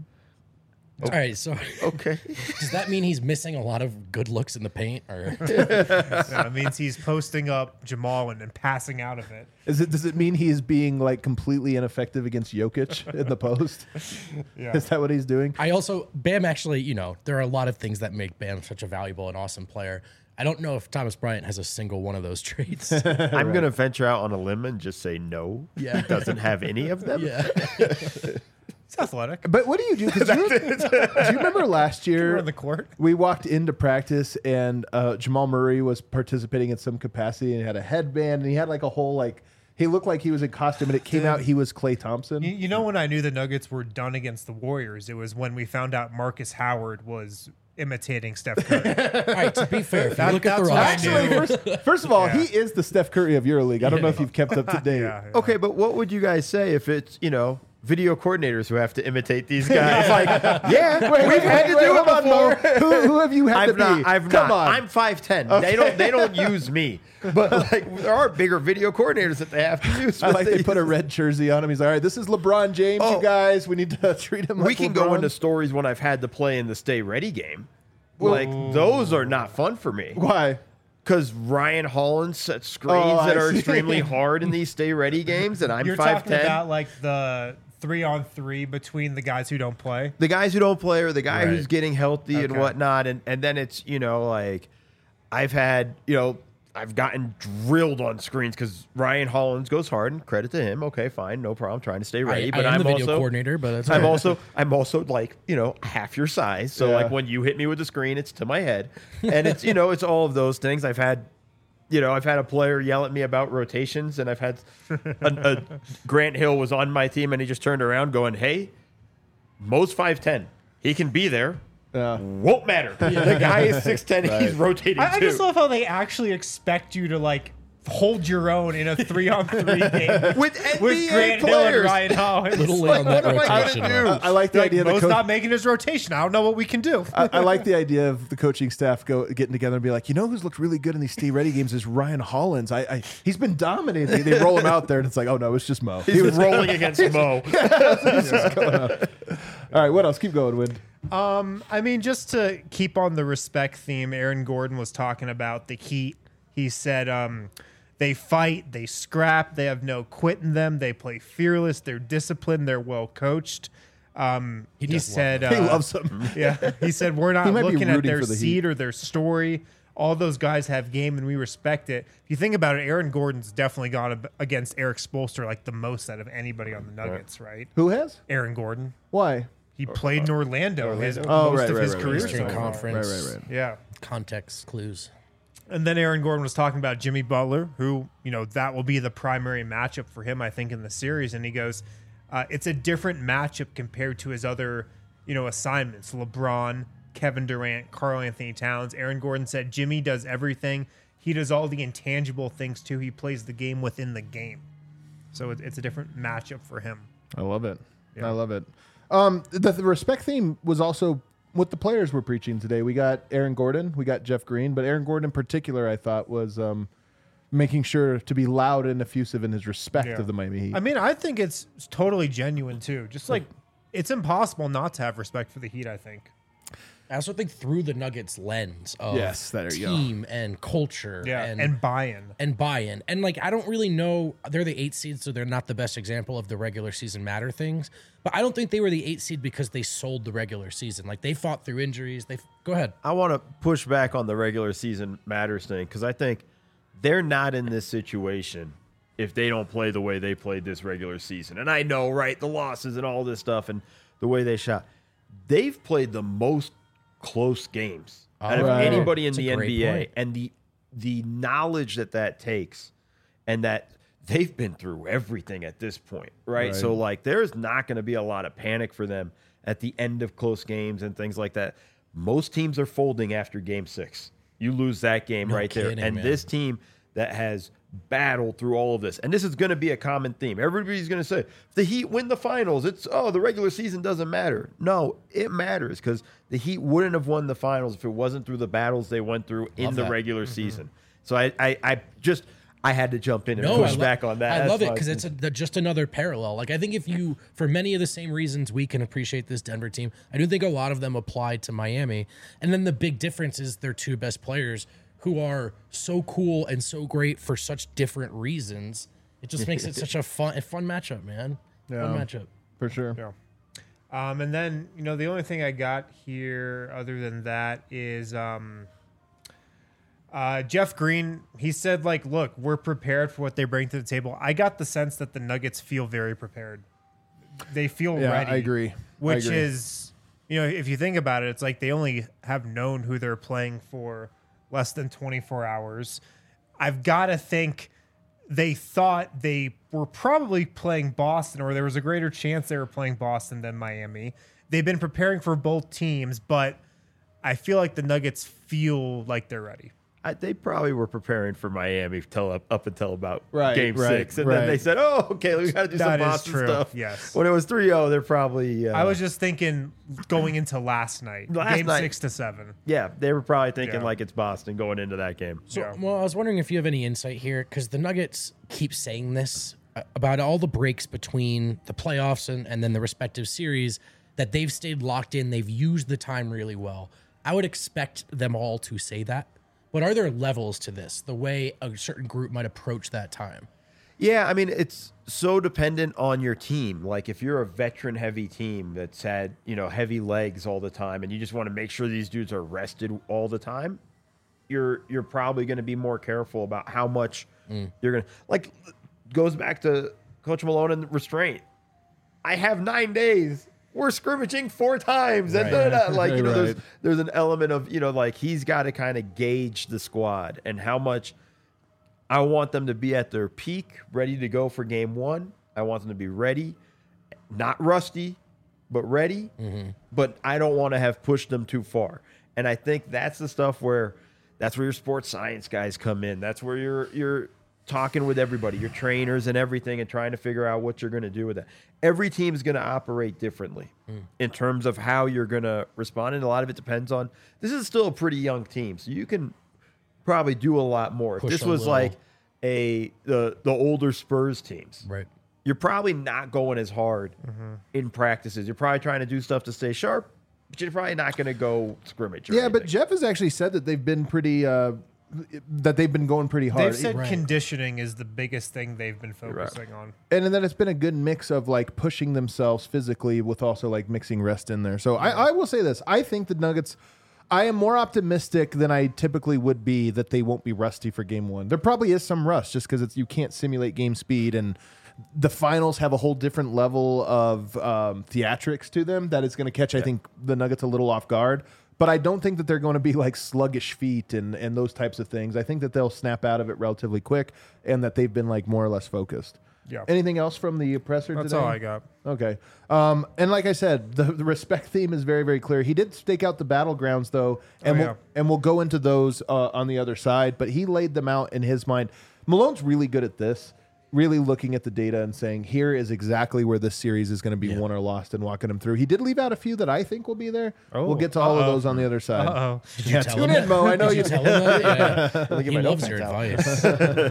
All right, so Okay. does that mean he's missing a lot of good looks in the paint? Or That means he's posting up Jamal and, and passing out of it. Is it? Does it mean he's being like completely ineffective against Jokic in the post? Yeah. Is that what he's doing? I also Bam actually, you know, there are a lot of things that make Bam such a valuable and awesome player. I don't know if Thomas Bryant has a single one of those traits. I'm going to venture out on a limb and just say no. Yeah. He doesn't have any of them. yeah. He's athletic. But what do you do? 'Cause you, do you remember last We're year on the court. we walked into practice and uh, Jamal Murray was participating in some capacity and he had a headband and he had like a whole like he looked like he was in costume and it came out he was Klay Thompson. You, you know when I knew the Nuggets were done against the Warriors, it was when we found out Marcus Howard was imitating Steph Curry. All right, to be fair, if you That- look at the that's what I roster, knew. Actually, first, first of all, Yeah. he is the Steph Curry of EuroLeague. I don't know if you've kept up to date. yeah, yeah. Okay, but what would you guys say if it's, you know, video coordinators who have to imitate these guys? Like, yeah, Wait, we've wait, had wait, to do hold it on, before. Mo. Who, who have you had to I've not. be? I've Come not. on. I'm five ten. They don't. They don't use me. But like, there are bigger video coordinators that they have to use. I but like they put a use- red jersey on him. He's like, all right, this is LeBron James, Oh. you guys. We need to treat him like We can LeBron. go into stories when I've had to play in the Stay Ready game. Like those are not fun for me. Why? Because Ryan Holland sets screens Oh, I that are see. extremely hard in these Stay Ready games, and I'm You're five talking ten. about like the three on three between the guys who don't play. The guys who don't play or the guy Right. who's getting healthy and Okay. whatnot, and and then it's you know like I've had you know I've gotten drilled on screens because Ryan Hollins goes hard, and credit to him. Okay, fine, no problem. Trying to stay I, ready, I but am I'm the video also coordinator, but that's I'm okay. also I'm also like you know half your size, so Yeah. like when you hit me with the screen, it's to my head, and it's you know it's all of those things. I've had, you know, I've had a player yell at me about rotations, and I've had a, a Grant Hill was on my team, and he just turned around going, "Hey, Mo's five ten. He can be there. Yeah. Won't matter. The guy is six ten. He's rotating I, I too. just love how they actually expect you to like hold your own in a three on three game With N B A with Grant Hill and players. Ryan Hollins. Little late like, on that what am I gonna rotation. do? though. I like the Like, idea that Mo's coach, not making his rotation. I don't know what we can do. I, I like the idea of the coaching staff go getting together and be like, you know who's looked really good in these Steve Ready games is Ryan Hollins. I, I he's been dominating. They roll him out there and it's like, oh no, it's just Mo. He's rolling against Mo. All right, what else? Keep going, Win. Um, I mean, just to keep on the respect theme, Aaron Gordon was talking about the Heat. He said, um, they fight, they scrap, they have no quit in them, they play fearless, they're disciplined, they're well coached. Um, he, does love said, He uh, loves him. yeah, he said we're not He might be looking at rooting their for the seed Heat. or their story. All those guys have game, and we respect it. If you think about it, Aaron Gordon's definitely gone ab- against Eric Spoelstra like the most out of anybody on the Nuggets, right? Who has? Aaron Gordon. Why? He played in Orlando, his, Oh, most right, of right, his right, career right, so Eastern far. Conference. Right, right, right. Yeah. Context clues. And then Aaron Gordon was talking about Jimmy Butler, who, you know, that will be the primary matchup for him, I think, in the series. And he goes, uh, it's a different matchup compared to his other, you know, assignments. LeBron, Kevin Durant, Karl Anthony Towns. Aaron Gordon said Jimmy does everything. He does all the intangible things, too. He plays the game within the game. So it, it's a different matchup for him. I love it. I love it. Um, the, the respect theme was also what the players were preaching today. We got Aaron Gordon, we got Jeff Green, but Aaron Gordon in particular, I thought, was um, making sure to be loud and effusive in his respect Yeah. of the Miami Heat. I mean, I think it's totally genuine, too. Just like it's impossible not to have respect for the Heat, I think. I also think through the Nuggets lens of Yes, there you go. team and culture Yeah. and And, buy-in. and buy-in. And like I don't really know, they're the eight seed, so they're not the best example of the regular season matter things. But I don't think they were the eight seed because they sold the regular season. Like they fought through injuries. They go ahead. I want to push back on the regular season matters thing because I think they're not in this situation if they don't play the way they played this regular season. And I know, right, the losses and all this stuff and the way they shot. They've played the most close games out of Right. anybody in That's a the great N B A. point. And the the knowledge that that takes and that they've been through everything at this point, right? Right. So, like, there's not going to be a lot of panic for them at the end of close games and things like that. Most teams are folding after game six. You lose that game No right kidding, there. And man. this team that has battled through all of this, and this is going to be a common theme. Everybody's going to say, if the Heat win the finals, it's, oh, the regular season doesn't matter. No, it matters because the Heat wouldn't have won the finals if it wasn't through the battles they went through in Love the that. regular season. So I, I, I just, I had to jump in and No, push I lo- back on that. I That's love it my- because it's a, the, just another parallel. Like I think if you, for many of the same reasons, we can appreciate this Denver team. I do think a lot of them apply to Miami, and then the big difference is their two best players, who are so cool and so great for such different reasons. It just makes it such a fun, a fun matchup, man. Fun Yeah. matchup. for sure. Yeah. Um, and then, you know, the only thing I got here other than that is um, uh, Jeff Green. He said, like, look, we're prepared for what they bring to the table. I got the sense that the Nuggets feel very prepared. They feel Yeah, ready. I agree. I Which agree. is, you know, if you think about it, it's like they only have known who they're playing for less than twenty-four hours. I've got to think they thought they were probably playing Boston, or there was a greater chance they were playing Boston than Miami. They've been preparing for both teams, but I feel like the Nuggets feel like they're ready. I, they probably were preparing for Miami till up, up until about Right, game right, six. And right. then they said, oh, okay, we got to do That some is Boston true, stuff. yes. When it was three oh, they're probably. Uh, I was just thinking going into last night, Last game night. six to seven. Yeah, they were probably thinking Yeah. like it's Boston going into that game. So, Yeah. well, I was wondering if you have any insight here because the Nuggets keep saying this uh, about all the breaks between the playoffs and, and then the respective series that they've stayed locked in. They've used the time really well. I would expect them all to say that. But are there levels to this, the way a certain group might approach that time? Yeah, I mean, it's so dependent on your team. Like, if you're a veteran-heavy team that's had, you know, heavy legs all the time and you just want to make sure these dudes are rested all the time, you're you're probably going to be more careful about how much you're going to... Like, goes back to Coach Malone and restraint. I have nine days. We're scrimmaging four times. And Right. da, da, da. Like, you know, there's, Right. there's an element of, you know, like, he's got to kind of gauge the squad and how much... I want them to be at their peak, ready to go for game one. I want them to be ready, not rusty, but ready. Mm-hmm. But I don't want to have pushed them too far. And I think that's the stuff where that's where your sports science guys come in. That's where you're you're talking with everybody, your trainers and everything, and trying to figure out what you're going to do with that. Every team is going to operate differently mm. in terms of how you're going to respond. And a lot of it depends on, this is still a pretty young team, so you can probably do a lot more. Push if this was little. like a the the older Spurs teams, right? You're probably not going as hard mm-hmm. in practices. You're probably trying to do stuff to stay sharp, but you're probably not going to go scrimmage. Or yeah, anything. But Jeff has actually said that they've been pretty, uh, that they've been going pretty hard. They've said right. conditioning is the biggest thing they've been focusing right. on. And then it's been a good mix of like pushing themselves physically with also like mixing rest in there. So yeah. I, I will say this. I think the Nuggets, I am more optimistic than I typically would be that they won't be rusty for game one. There probably is some rust just because it's you can't simulate game speed, and the finals have a whole different level of um, theatrics to them that is going to catch, yeah. I think, the Nuggets a little off guard. But I don't think that they're going to be like sluggish feet and, and those types of things. I think that they'll snap out of it relatively quick and that they've been like more or less focused. Yeah. Anything else from the presser That's today? all I got. Okay. Um, and like I said, the, the respect theme is very, very clear. He did stake out the battlegrounds, though, and, oh, we'll, yeah. and we'll go into those uh, on the other side. But he laid them out in his mind. Malone's really good at this. Really looking at the data and saying, here is exactly where this series is going to be yeah. won or lost, and walking them through. He did leave out a few that I think will be there. Oh, we'll get to all uh-oh. of those on the other side. Uh-oh. Did you yeah, tell tune him in, Mo. I know did you. you tell him that? Yeah. He loves your advice.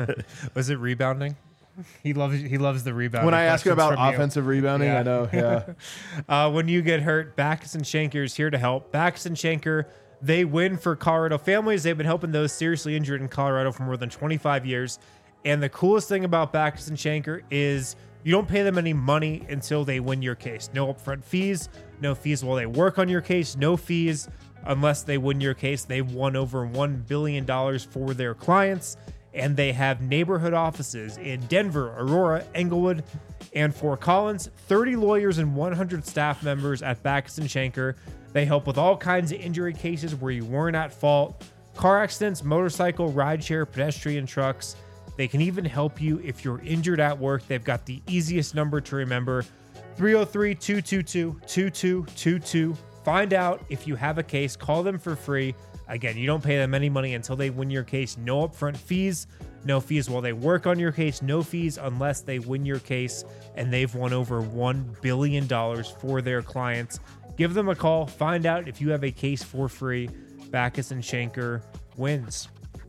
Was it rebounding? He loves he loves the rebounding. When I ask him about offensive you. rebounding, yeah. I know. Yeah. uh, when you get hurt, Backus and Schenker is here to help. Backus and Schenker, they win for Colorado families. They've been helping those seriously injured in Colorado for more than twenty-five years. And the coolest thing about Backus and Schenker is you don't pay them any money until they win your case. No upfront fees, no fees while they work on your case, no fees unless they win your case. They've won over one billion dollars for their clients, and they have neighborhood offices in Denver, Aurora, Englewood, and Fort Collins. thirty lawyers and one hundred staff members at Backus and Schenker. They help with all kinds of injury cases where you weren't at fault, car accidents, motorcycle, rideshare, pedestrian trucks. They can even help you if you're injured at work. They've got the easiest number to remember, three oh three, two two two, two two two two. Find out if you have a case. Call them for free. Again, you don't pay them any money until they win your case. No upfront fees, no fees while they work on your case, no fees unless they win your case, and they've won over one billion dollars for their clients. Give them a call. Find out if you have a case for free. Backus and Schenker wins.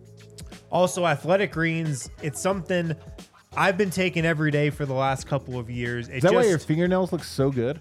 Also, Athletic Greens, it's something I've been taking every day for the last couple of years. It Is that just, why your fingernails look so good?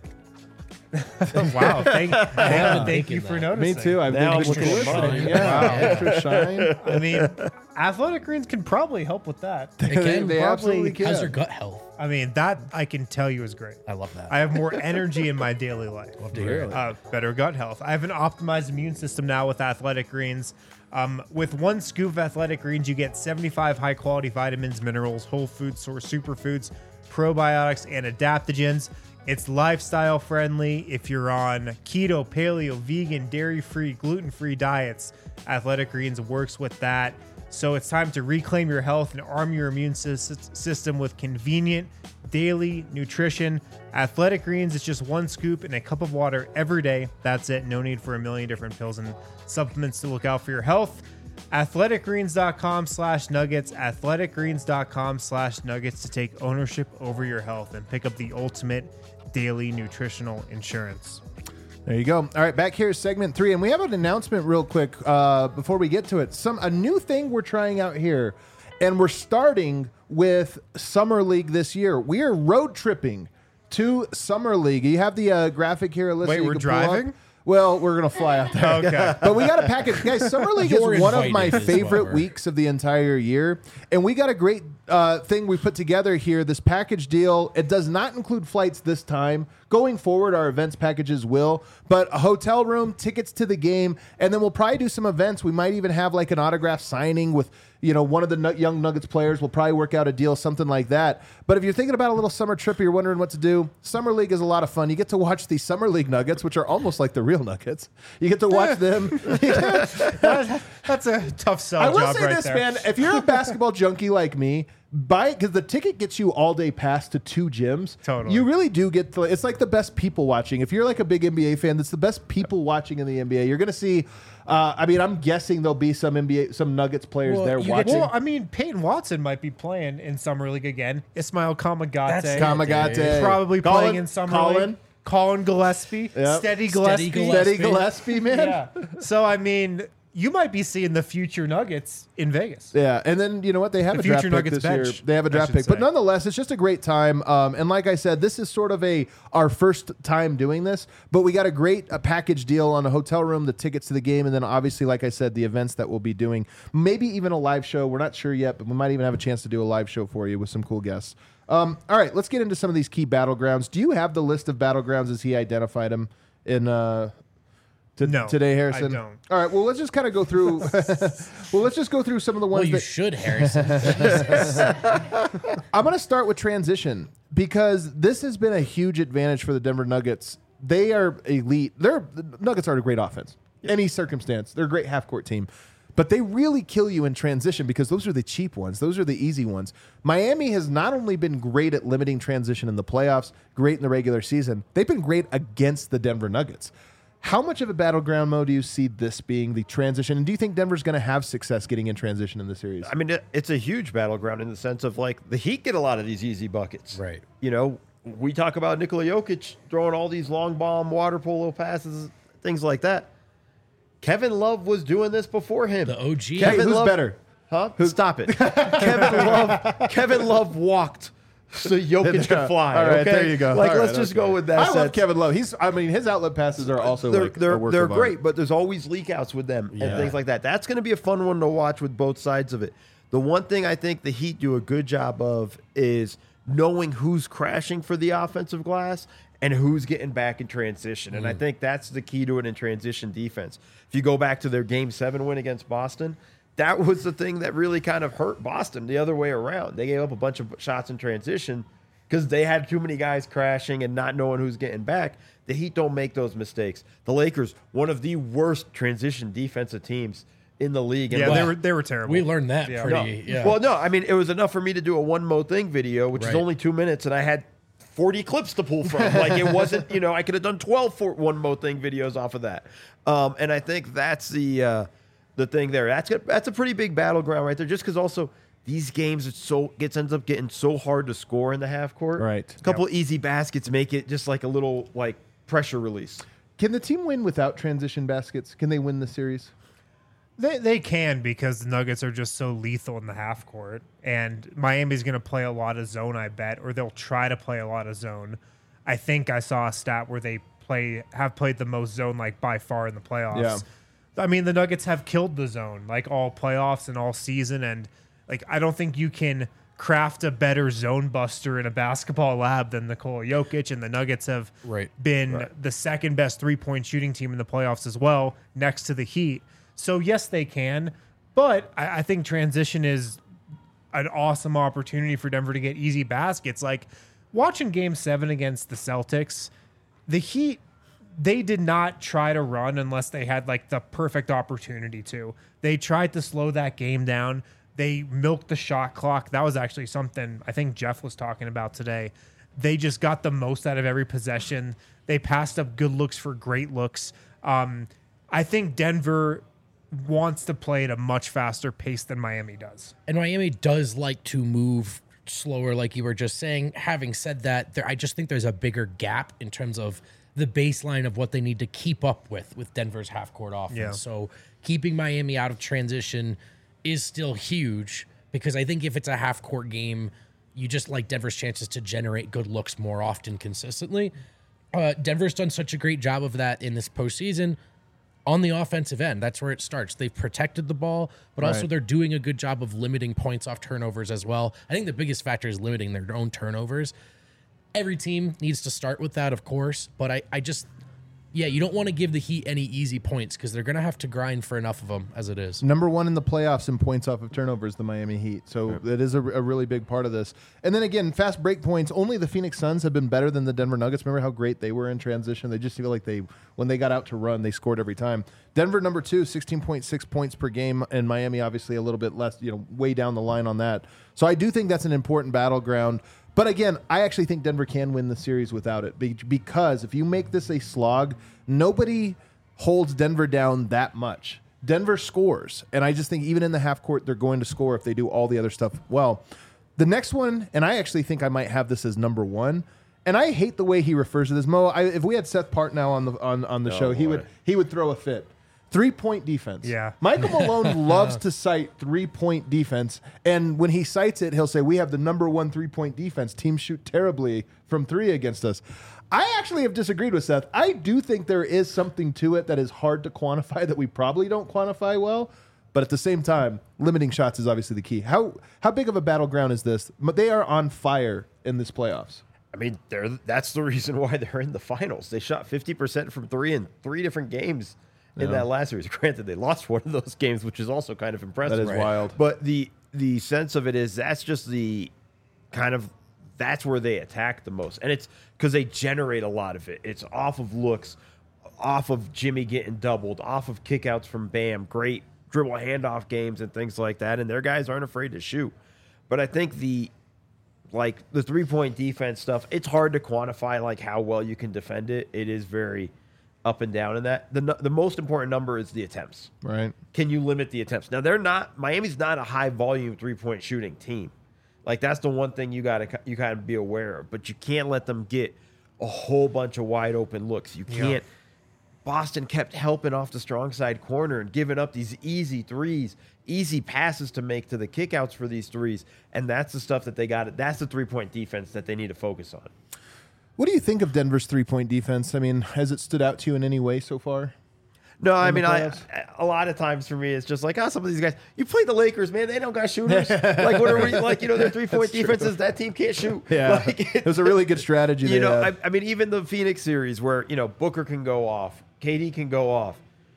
Wow, thank, yeah, thank you for that. noticing. Me too. I've Now been I'm looking at mine. Yeah, extra shine. I mean, Athletic Greens can probably help with that. They can. They Probably absolutely can. How's your gut health? I mean, that I can tell you is great. I love that. I have more energy in my daily life. love to hear it. Uh, better gut health. I have an optimized immune system now with Athletic Greens. Um, with one scoop of Athletic Greens, you get seventy-five high-quality vitamins, minerals, whole food source superfoods, probiotics, and adaptogens. It's lifestyle friendly. If you're on keto, paleo, vegan, dairy-free, gluten-free diets, Athletic Greens works with that. So it's time to reclaim your health and arm your immune system with convenient daily nutrition. Athletic Greens is just one scoop in a cup of water every day. That's it. No need for a million different pills and supplements to look out for your health. athleticgreens.com slash nuggets. athleticgreens.com slash nuggets to take ownership over your health and pick up the ultimate daily nutritional insurance. There you go. All right, back here is segment three, and we have an announcement real quick uh, before we get to it. Some a new thing we're trying out here, and we're starting with Summer League this year. We are road tripping to Summer League. You have the uh, graphic here, Alyssa. Wait, you we're can pull up. driving? Well, we're going to fly out there. Okay. But we got a package. Guys, Summer League You're is one of my invited as favorite well. weeks of the entire year. And we got a great uh, thing we put together here, this package deal. It does not include flights this time. Going forward, our events packages will. But a hotel room, tickets to the game, and then we'll probably do some events. We might even have like an autograph signing with, you know, one of the nu- young Nuggets players. We'll probably work out a deal, something like that. But if you're thinking about a little summer trip or you're wondering what to do, Summer League is a lot of fun. You get to watch the Summer League Nuggets, which are almost like the real Nuggets. You get to watch them. That- that's a tough sell I will job say right this, there. man. If you're a basketball junkie like me, buy it because the ticket gets you all day pass to two gyms. Totally. You really do get to, it's like the best people watching. If you're like a big N B A fan, that's the best people watching in the N B A. You're going to see, uh, I mean, I'm guessing there'll be some N B A, some Nuggets players Well, there you get watching. Well, I mean, Peyton Watson might be playing in Summer League again. Ismail Kamagate. That's Kamagate. Probably Colin- playing in Summer Colin. League. Colin Gillespie. Yep. Steady Steady Gillespie. Gillespie. Steady Gillespie, man. Yeah. So, I mean, you might be seeing the future Nuggets in Vegas. Yeah, and then you know what? They have The a draft future pick Nuggets this year. bench, They have a I draft should pick, but say. nonetheless, it's just a great time. Um, and like I said, this is sort of a our first time doing this, but we got a great a package deal on a hotel room, the tickets to the game, and then obviously, like I said, the events that we'll be doing. Maybe even a live show. We're not sure yet, but we might even have a chance to do a live show for you with some cool guests. Um, all right, let's get into some of these key battlegrounds. Do you have the list of battlegrounds as he identified them in? Uh, To, No, today, Harrison. I don't. All right. Well, let's just kind of go through. well, let's just go through some of the Well, ones you that should, Harrison. I'm going to start with transition because this has been a huge advantage for the Denver Nuggets. They are elite. They're the Nuggets are a great offense. Any circumstance, they're a great half court team. But they really kill you in transition because those are the cheap ones. Those are the easy ones. Miami has not only been great at limiting transition in the playoffs, great in the regular season, they've been great against the Denver Nuggets. How much of a battleground mode do you see this being, the transition? And do you think Denver's going to have success getting in transition in the series? I mean, it, it's a huge battleground in the sense of like the Heat get a lot of these easy buckets. Right. You know, we talk about Nikola Jokic throwing all these long bomb water polo passes, things like that. Kevin Love was doing this before him. The O G. Hey, Kevin who's Love, better? Huh? Stop it. Kevin Love. Kevin Love walked so Jokic could fly. All right, okay? there you go. Like, All let's right, just okay. go with that. I love sense. Kevin Love. He's, I mean, his outlet passes are also they're like they're, a work they're of art. great, but there's always leak outs with them Yeah. and things like that. That's going to be a fun one to watch with both sides of it. The one thing I think the Heat do a good job of is knowing who's crashing for the offensive glass and who's getting back in transition. And I think that's the key to it in transition defense. If you go back to their game seven win against Boston, that was the thing that really kind of hurt Boston the other way around. They gave up a bunch of shots in transition because they had too many guys crashing and not knowing who's getting back. The Heat don't make those mistakes. The Lakers, one of the worst transition defensive teams in the league. And Yeah, look, they were they were terrible. We learned that Yeah. pretty. no. Yeah. Well, no, I mean, it was enough for me to do a one mo thing video, which is Right. only two minutes, and I had forty clips to pull from. Like, it wasn't, you know, I could have done twelve for one mo thing videos off of that. Um, and I think that's the uh, the thing there. That's a, that's a pretty big battleground right there, just because also these games it's so gets ends up getting so hard to score in the half court. Right. A couple easy baskets make it just like a little like pressure release. Can the team win without transition baskets? Can they win the series? They they can because the Nuggets are just so lethal in the half court, and Miami's going to play a lot of zone, I bet, or they'll try to play a lot of zone. I think I saw a stat where they play have played the most zone like by far in the playoffs. Yeah. I mean, the Nuggets have killed the zone like all playoffs and all season, and like I don't think you can craft a better zone buster in a basketball lab than Nikola Jokic, and the Nuggets have Right. been the second best three-point shooting team in the playoffs as well, next to the Heat. So yes, they can, but I, I think transition is an awesome opportunity for Denver to get easy baskets. Like watching Game Seven against the Celtics, the Heat, they did not try to run unless they had like the perfect opportunity to. They tried to slow that game down. They milked the shot clock. That was actually something I think Jeff was talking about today. They just got the most out of every possession. They passed up good looks for great looks. Um, I think Denver wants to play at a much faster pace than Miami does. And Miami does like to move slower, like you were just saying. Having said that, there I just think there's a bigger gap in terms of the baseline of what they need to keep up with with Denver's half-court offense. Yeah. So keeping Miami out of transition is still huge because I think if it's a half-court game, you just like Denver's chances to generate good looks more often consistently. Uh, Denver's done such a great job of that in this postseason. On the offensive end, that's where it starts. They've protected the ball, but also Right. they're doing a good job of limiting points off turnovers as well. I think the biggest factor is limiting their own turnovers. Every team needs to start with that, of course, but I, I just yeah, you don't want to give the Heat any easy points because they're going to have to grind for enough of them as it is. Number one in the playoffs in points off of turnovers, the Miami Heat. So right. that is a, a really big part of this. And then again, fast break points, only the Phoenix Suns have been better than the Denver Nuggets. Remember how great they were in transition? They just feel like they, when they got out to run, they scored every time. Denver, number two, sixteen point six points per game. And Miami, obviously, a little bit less, you know, way down the line on that. So I do think that's an important battleground. But again, I actually think Denver can win the series without it because if you make this a slog, nobody holds Denver down that much. Denver scores, and I just think even in the half court, they're going to score if they do all the other stuff well. The next one, and I actually think I might have this as number one, and I hate the way he refers to this. Mo, I, if we had Seth Partnow on the on, on the Oh, show, he boy. would he would throw a fit. Three-point defense. Yeah. Michael Malone loves to cite three-point defense, and when he cites it, he'll say, we have the number one three-point defense. Teams shoot terribly from three against us. I actually have disagreed with Seth. I do think there is something to it that is hard to quantify that we probably don't quantify well, but at the same time, limiting shots is obviously the key. How how big of a battleground is this? But they are on fire in this playoffs. I mean, they're that's the reason why they're in the finals. They shot fifty percent from three in three different games in Yeah. that last series. Granted, they lost one of those games, which is also kind of impressive. That is wild. But the the sense of it is that's just the kind of that's where they attack the most, and it's because they generate a lot of it. It's off of looks, off of Jimmy getting doubled, off of kickouts from Bam, great dribble handoff games and things like that, and their guys aren't afraid to shoot. But I think the like the three-point defense stuff, it's hard to quantify like how well you can defend it. It is very up and down in that. The the most important number is the attempts. Right. Can you limit the attempts? Now they're not Miami's not a high volume three-point shooting team. Like that's the one thing you got to you kind of be aware of, but you can't let them get a whole bunch of wide open looks. You can't. Yeah. Boston kept helping off the strong side corner and giving up these easy threes, easy passes to make to the kickouts for these threes, and that's the stuff that they got. That's the three-point defense that they need to focus on. What do you think of Denver's three-point defense? I mean, has it stood out to you in any way so far? No, I in the mean, I, playoffs? a lot of times for me, it's just like, oh, some of these guys. You play the Lakers, man. They don't got shooters. Like, what are we, like, you know, their three-point defenses, that team can't shoot. Yeah. Like, It was a really good strategy. You they know, had. I, I mean, even the Phoenix series where, you know, Booker can go off, K D can go off.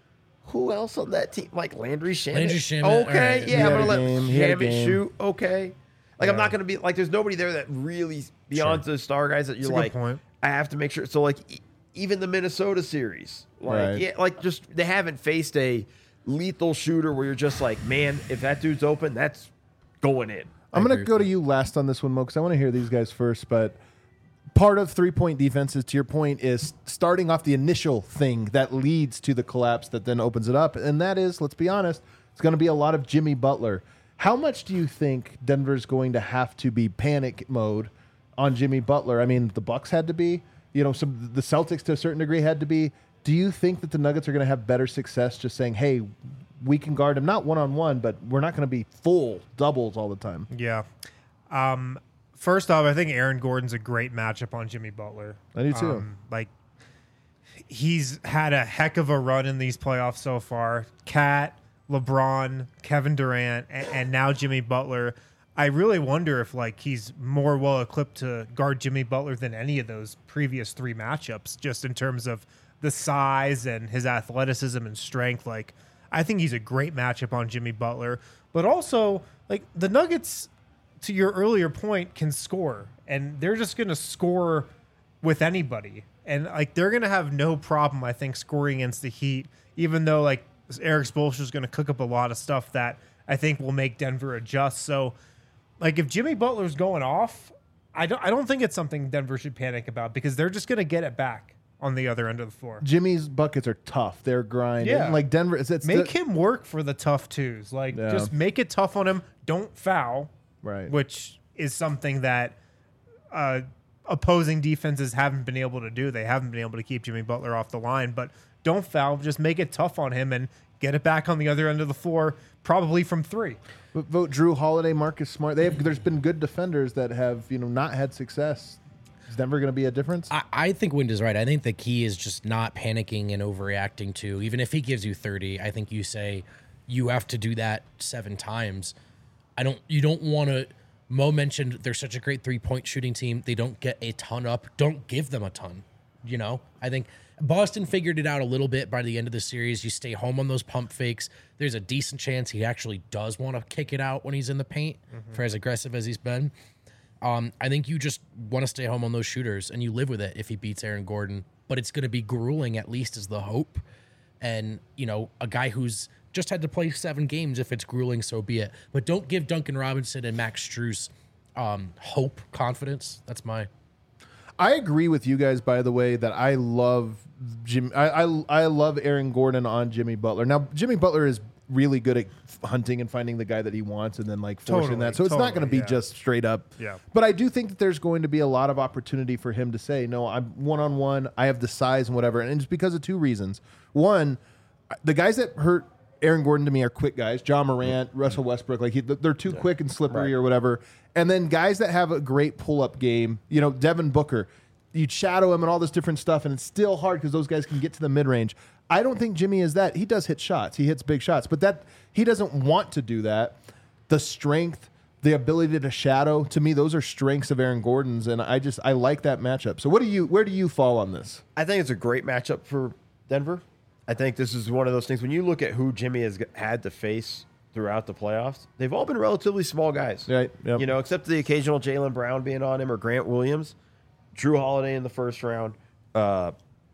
Who else on that team? Like Landry Shamet. Landry Shamet, Okay, all right. He yeah, had I'm a going to game, let he had a Shamet game. shoot. Okay. Like, I'm Yeah. not going to be, like, there's nobody there that really, beyond the star guys that you're a good like, point. I have to make sure. So, like, e- even the Minnesota series, like, Right. yeah, like, just, they haven't faced a lethal shooter where you're just like, man, if that dude's open, that's going in. I'm going agree to go with to you last on this one, Mo, because I want to hear these guys first. But part of three-point defenses, to your point, is starting off the initial thing that leads to the collapse that then opens it up. And that is, let's be honest, it's going to be a lot of Jimmy Butler. How much do you think Denver's going to have to be panic mode on Jimmy Butler? I mean, the Bucks had to be. You know, some the Celtics to a certain degree had to be. Do you think that the Nuggets are going to have better success just saying, hey, we can guard him, not one-on-one, but we're not going to be full doubles all the time? Yeah. Um, first off, I think Aaron Gordon's a great matchup on Jimmy Butler. I do too. Um, like, he's had a heck of a run in these playoffs so far. Cat, LeBron, Kevin Durant, and, and now Jimmy Butler. I really wonder if like he's more well equipped to guard Jimmy Butler than any of those previous three matchups, just in terms of the size and his athleticism and strength. Like, I think he's a great matchup on Jimmy Butler, but also like the Nuggets, to your earlier point, can score, and they're just going to score with anybody. And like, they're going to have no problem, I think, scoring against the Heat, even though like Eric Spoelstra is going to cook up a lot of stuff that I think will make Denver adjust. So like, if Jimmy Butler's going off, I don't, I don't think it's something Denver should panic about, because they're just going to get it back on the other end of the floor. Jimmy's buckets are tough. They're grinding. Yeah. Like Denver, it's, it's Make the, him work for the tough twos. Like, Yeah. just make it tough on him. Don't foul, right. which is something that uh, opposing defenses haven't been able to do. They haven't been able to keep Jimmy Butler off the line, but don't foul. Just make it tough on him and get it back on the other end of the floor, probably from three. But vote Drew Holiday, Marcus Smart. They have. There's been good defenders that have you know not had success. Is Denver going to be a difference? I, I think Wind is right. I think the key is just not panicking and overreacting to, even if he gives you thirty, I think you say you have to do that seven times. I don't, you don't want to, Mo mentioned they're such a great three-point shooting team. They don't get a ton up. Don't give them a ton. You know, I think Boston figured it out a little bit by the end of the series. You stay home on those pump fakes. There's a decent chance he actually does want to kick it out when he's in the paint mm-hmm. for as aggressive as he's been. Um, I think you just want to stay home on those shooters and you live with it if he beats Aaron Gordon. But it's going to be grueling, at least, is the hope. And, you know, a guy who's just had to play seven games, if it's grueling, so be it. But don't give Duncan Robinson and Max Strus um, hope, confidence. That's my... I agree with you guys, by the way, that I love Jim. I, I I love Aaron Gordon on Jimmy Butler. Now, Jimmy Butler is really good at hunting and finding the guy that he wants and then like forcing Totally, that. So it's not going to totally, be yeah. just straight up. Yeah. But I do think that there's going to be a lot of opportunity for him to say, no, I'm one on one. I have the size and whatever. And it's because of two reasons. One, the guys that hurt Aaron Gordon to me are quick guys. John Morant, Russell Westbrook, like he, they're too quick and slippery Right. or whatever. And then guys that have a great pull up game, you know, Devin Booker, you'd shadow him and all this different stuff, and it's still hard because those guys can get to the mid range. I don't think Jimmy is that. He does hit shots. He hits big shots, but that he doesn't want to do that. The strength, the ability to shadow, to me, those are strengths of Aaron Gordon's, and I just I like that matchup. So what do you where do you fall on this? I think it's a great matchup for Denver. I think this is one of those things when you look at who Jimmy has had to face throughout the playoffs, they've all been relatively small guys. Right. Yep. You know, except the occasional Jaylen Brown being on him or Grant Williams. Drew Holiday in the first round. Uh,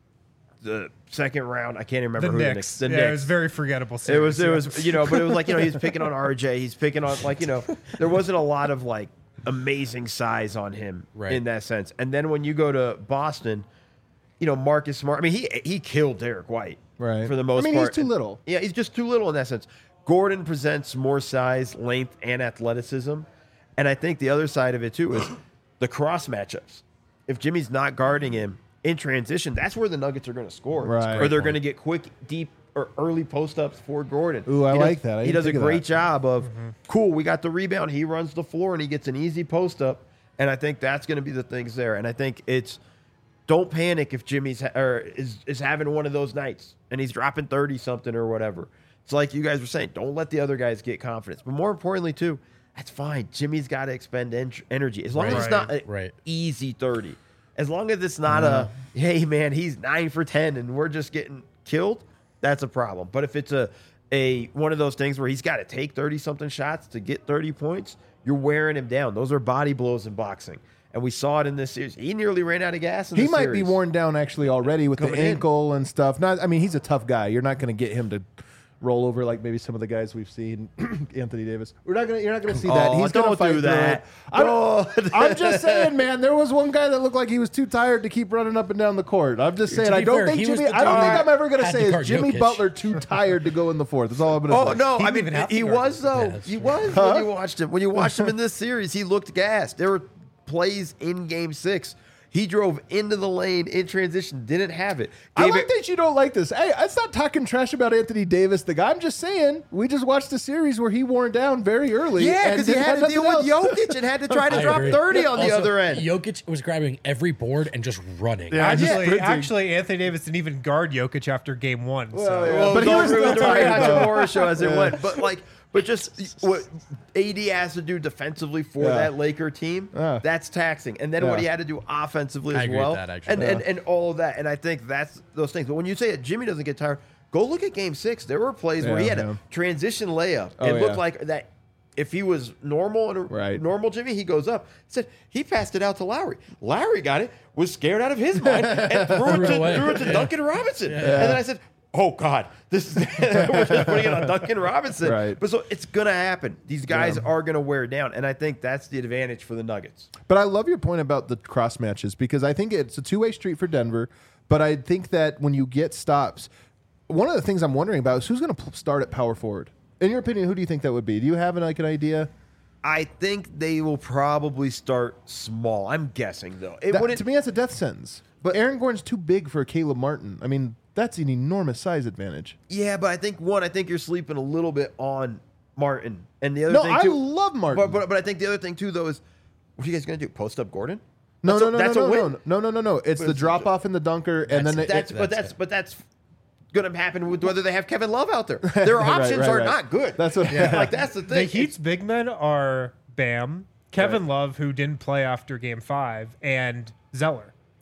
the second round, I can't even remember The who Knicks. the Knicks. The yeah, Knicks. it was very forgettable. It Series. was, it yeah. was, you know, but it was like, you know, he's picking on R J. He's picking on, like, you know, there wasn't a lot of, like, amazing size on him Right. in that sense. And then when you go to Boston, you know, Marcus Smart, I mean, he he killed Derek White. Right. For the most I mean, part. he's too little. Yeah, he's just too little in that sense. Gordon presents more size, length, and athleticism. And I think the other side of it, too, is the cross matchups. If Jimmy's not guarding him in transition, that's where the Nuggets are going to score. Right. Or they're going to get quick, deep, or early post-ups for Gordon. Ooh, I He like does, that. I he didn't does a think of great that. job of, cool, we got the rebound. He runs the floor, and he gets an easy post-up. And I think that's going to be the things there. And I think it's, don't panic if Jimmy's ha- or is, is having one of those nights, and he's dropping thirty-something or whatever. It's like you guys were saying, don't let the other guys get confidence. But more importantly, too, that's fine. Jimmy's got to expend en- energy. As long as it's not an Right. easy thirty. As long as it's not a, hey, man, he's nine for ten and we're just getting killed, that's a problem. But if it's a, a one of those things where he's got to take thirty-something shots to get thirty points, you're wearing him down. Those are body blows in boxing. And we saw it in this series. He nearly ran out of gas in He this might series. be worn down actually already with Coming the in. ankle and stuff. Not, I mean, he's a tough guy. You're not going to get him to roll over like maybe some of the guys we've seen. Anthony Davis. We're not going. You're not going to see that. Oh, He's going to don't fight do through that. it. I'm, Oh. I'm just saying, man. There was one guy that looked like he was too tired to keep running up and down the court. I'm just saying. To I be don't fair, think he was Jimmy. the I don't dude think I'm ever going to had say to is guard Jimmy Jokic. Butler too tired to go in the fourth. That's all I'm going to Oh say. no! He I didn't mean, even have to he guard was him. though. Yeah, that's he true. was when you watched him. When you watched him in this series, he looked gassed. There were plays in Game Six. He drove into the lane in transition, didn't have it. I Gave like it- that you don't like this. Hey, it's not talking trash about Anthony Davis, the guy. I'm just saying we just watched a series where he wore down very early. Yeah, and because he didn't had have to deal nothing with else. Jokic and had to try to I drop agree. thirty on the Also, other end. Jokic was grabbing every board and just running. Yeah, just Actually, sprinting. actually, Anthony Davis didn't even guard Jokic after game one. Well, so. yeah. Well, But he don't was ruin still the Ryan tired, though. Hachimura show as it Yeah. went. But like, but just what A D has to do defensively for Yeah. that Laker team, Yeah. that's taxing. And then Yeah. what he had to do offensively I as agree with well, that, actually. and, and Yeah. and all of that. And I think that's those things. But when you say it, Jimmy doesn't get tired. Go look at Game Six. There were plays where he Yeah, had yeah. a transition layup. Oh, it looked yeah. like that. If he was normal and a Right. normal Jimmy, he goes up. Said he passed it out to Lowry. Lowry got it, was scared out of his mind, and threw it Threw it to, away. threw it to Yeah. Duncan Robinson. And then I said, "Oh God, this is we're just putting it on Duncan Robinson." Right. But so it's gonna happen. These guys Yeah. are gonna wear down, and I think that's the advantage for the Nuggets. But I love your point about the cross matches because I think it's a two way street for Denver. But I think that when you get stops, one of the things I'm wondering about is who's going to start at power forward. In your opinion, who do you think that would be? Do you have an, like an idea? I think they will probably start small. I'm guessing though. It That- wouldn't. to me, that's a death sentence. But Aaron Gordon's too big for Caleb Martin. I mean, that's an enormous size advantage. Yeah, but I think one. I think you're sleeping a little bit on Martin, and the other No, thing I too. love Martin. But, but but I think the other thing too though is, what are you guys gonna do? Post up Gordon? no, That's no, a- no, that's no, a no, win. no, no, no, no, no. It's But the it's- drop off in the dunker, and then it, that's it- but that's that's it. but that's going to happen with whether they have Kevin Love out there. Their Right, options right, are right. not good. That's what- like that's the thing. The Heat's big men are Bam, Kevin Love, who didn't play after game five, and Zeller.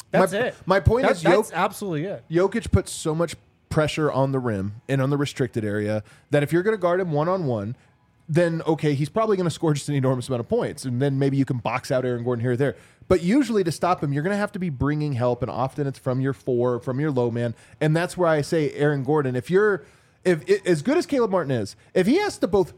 That's my, it. My point That- is, that's Jok- absolutely it. Jokic puts so much pressure on the rim and on the restricted area that if you're going to guard him one on one, then okay, he's probably going to score just an enormous amount of points, and then maybe you can box out Aaron Gordon here or there. But usually to stop him, you're going to have to be bringing help, and often it's from your four, from your low man, and that's where I say Aaron Gordon. If you're, if, if as good as Caleb Martin is, if he has to both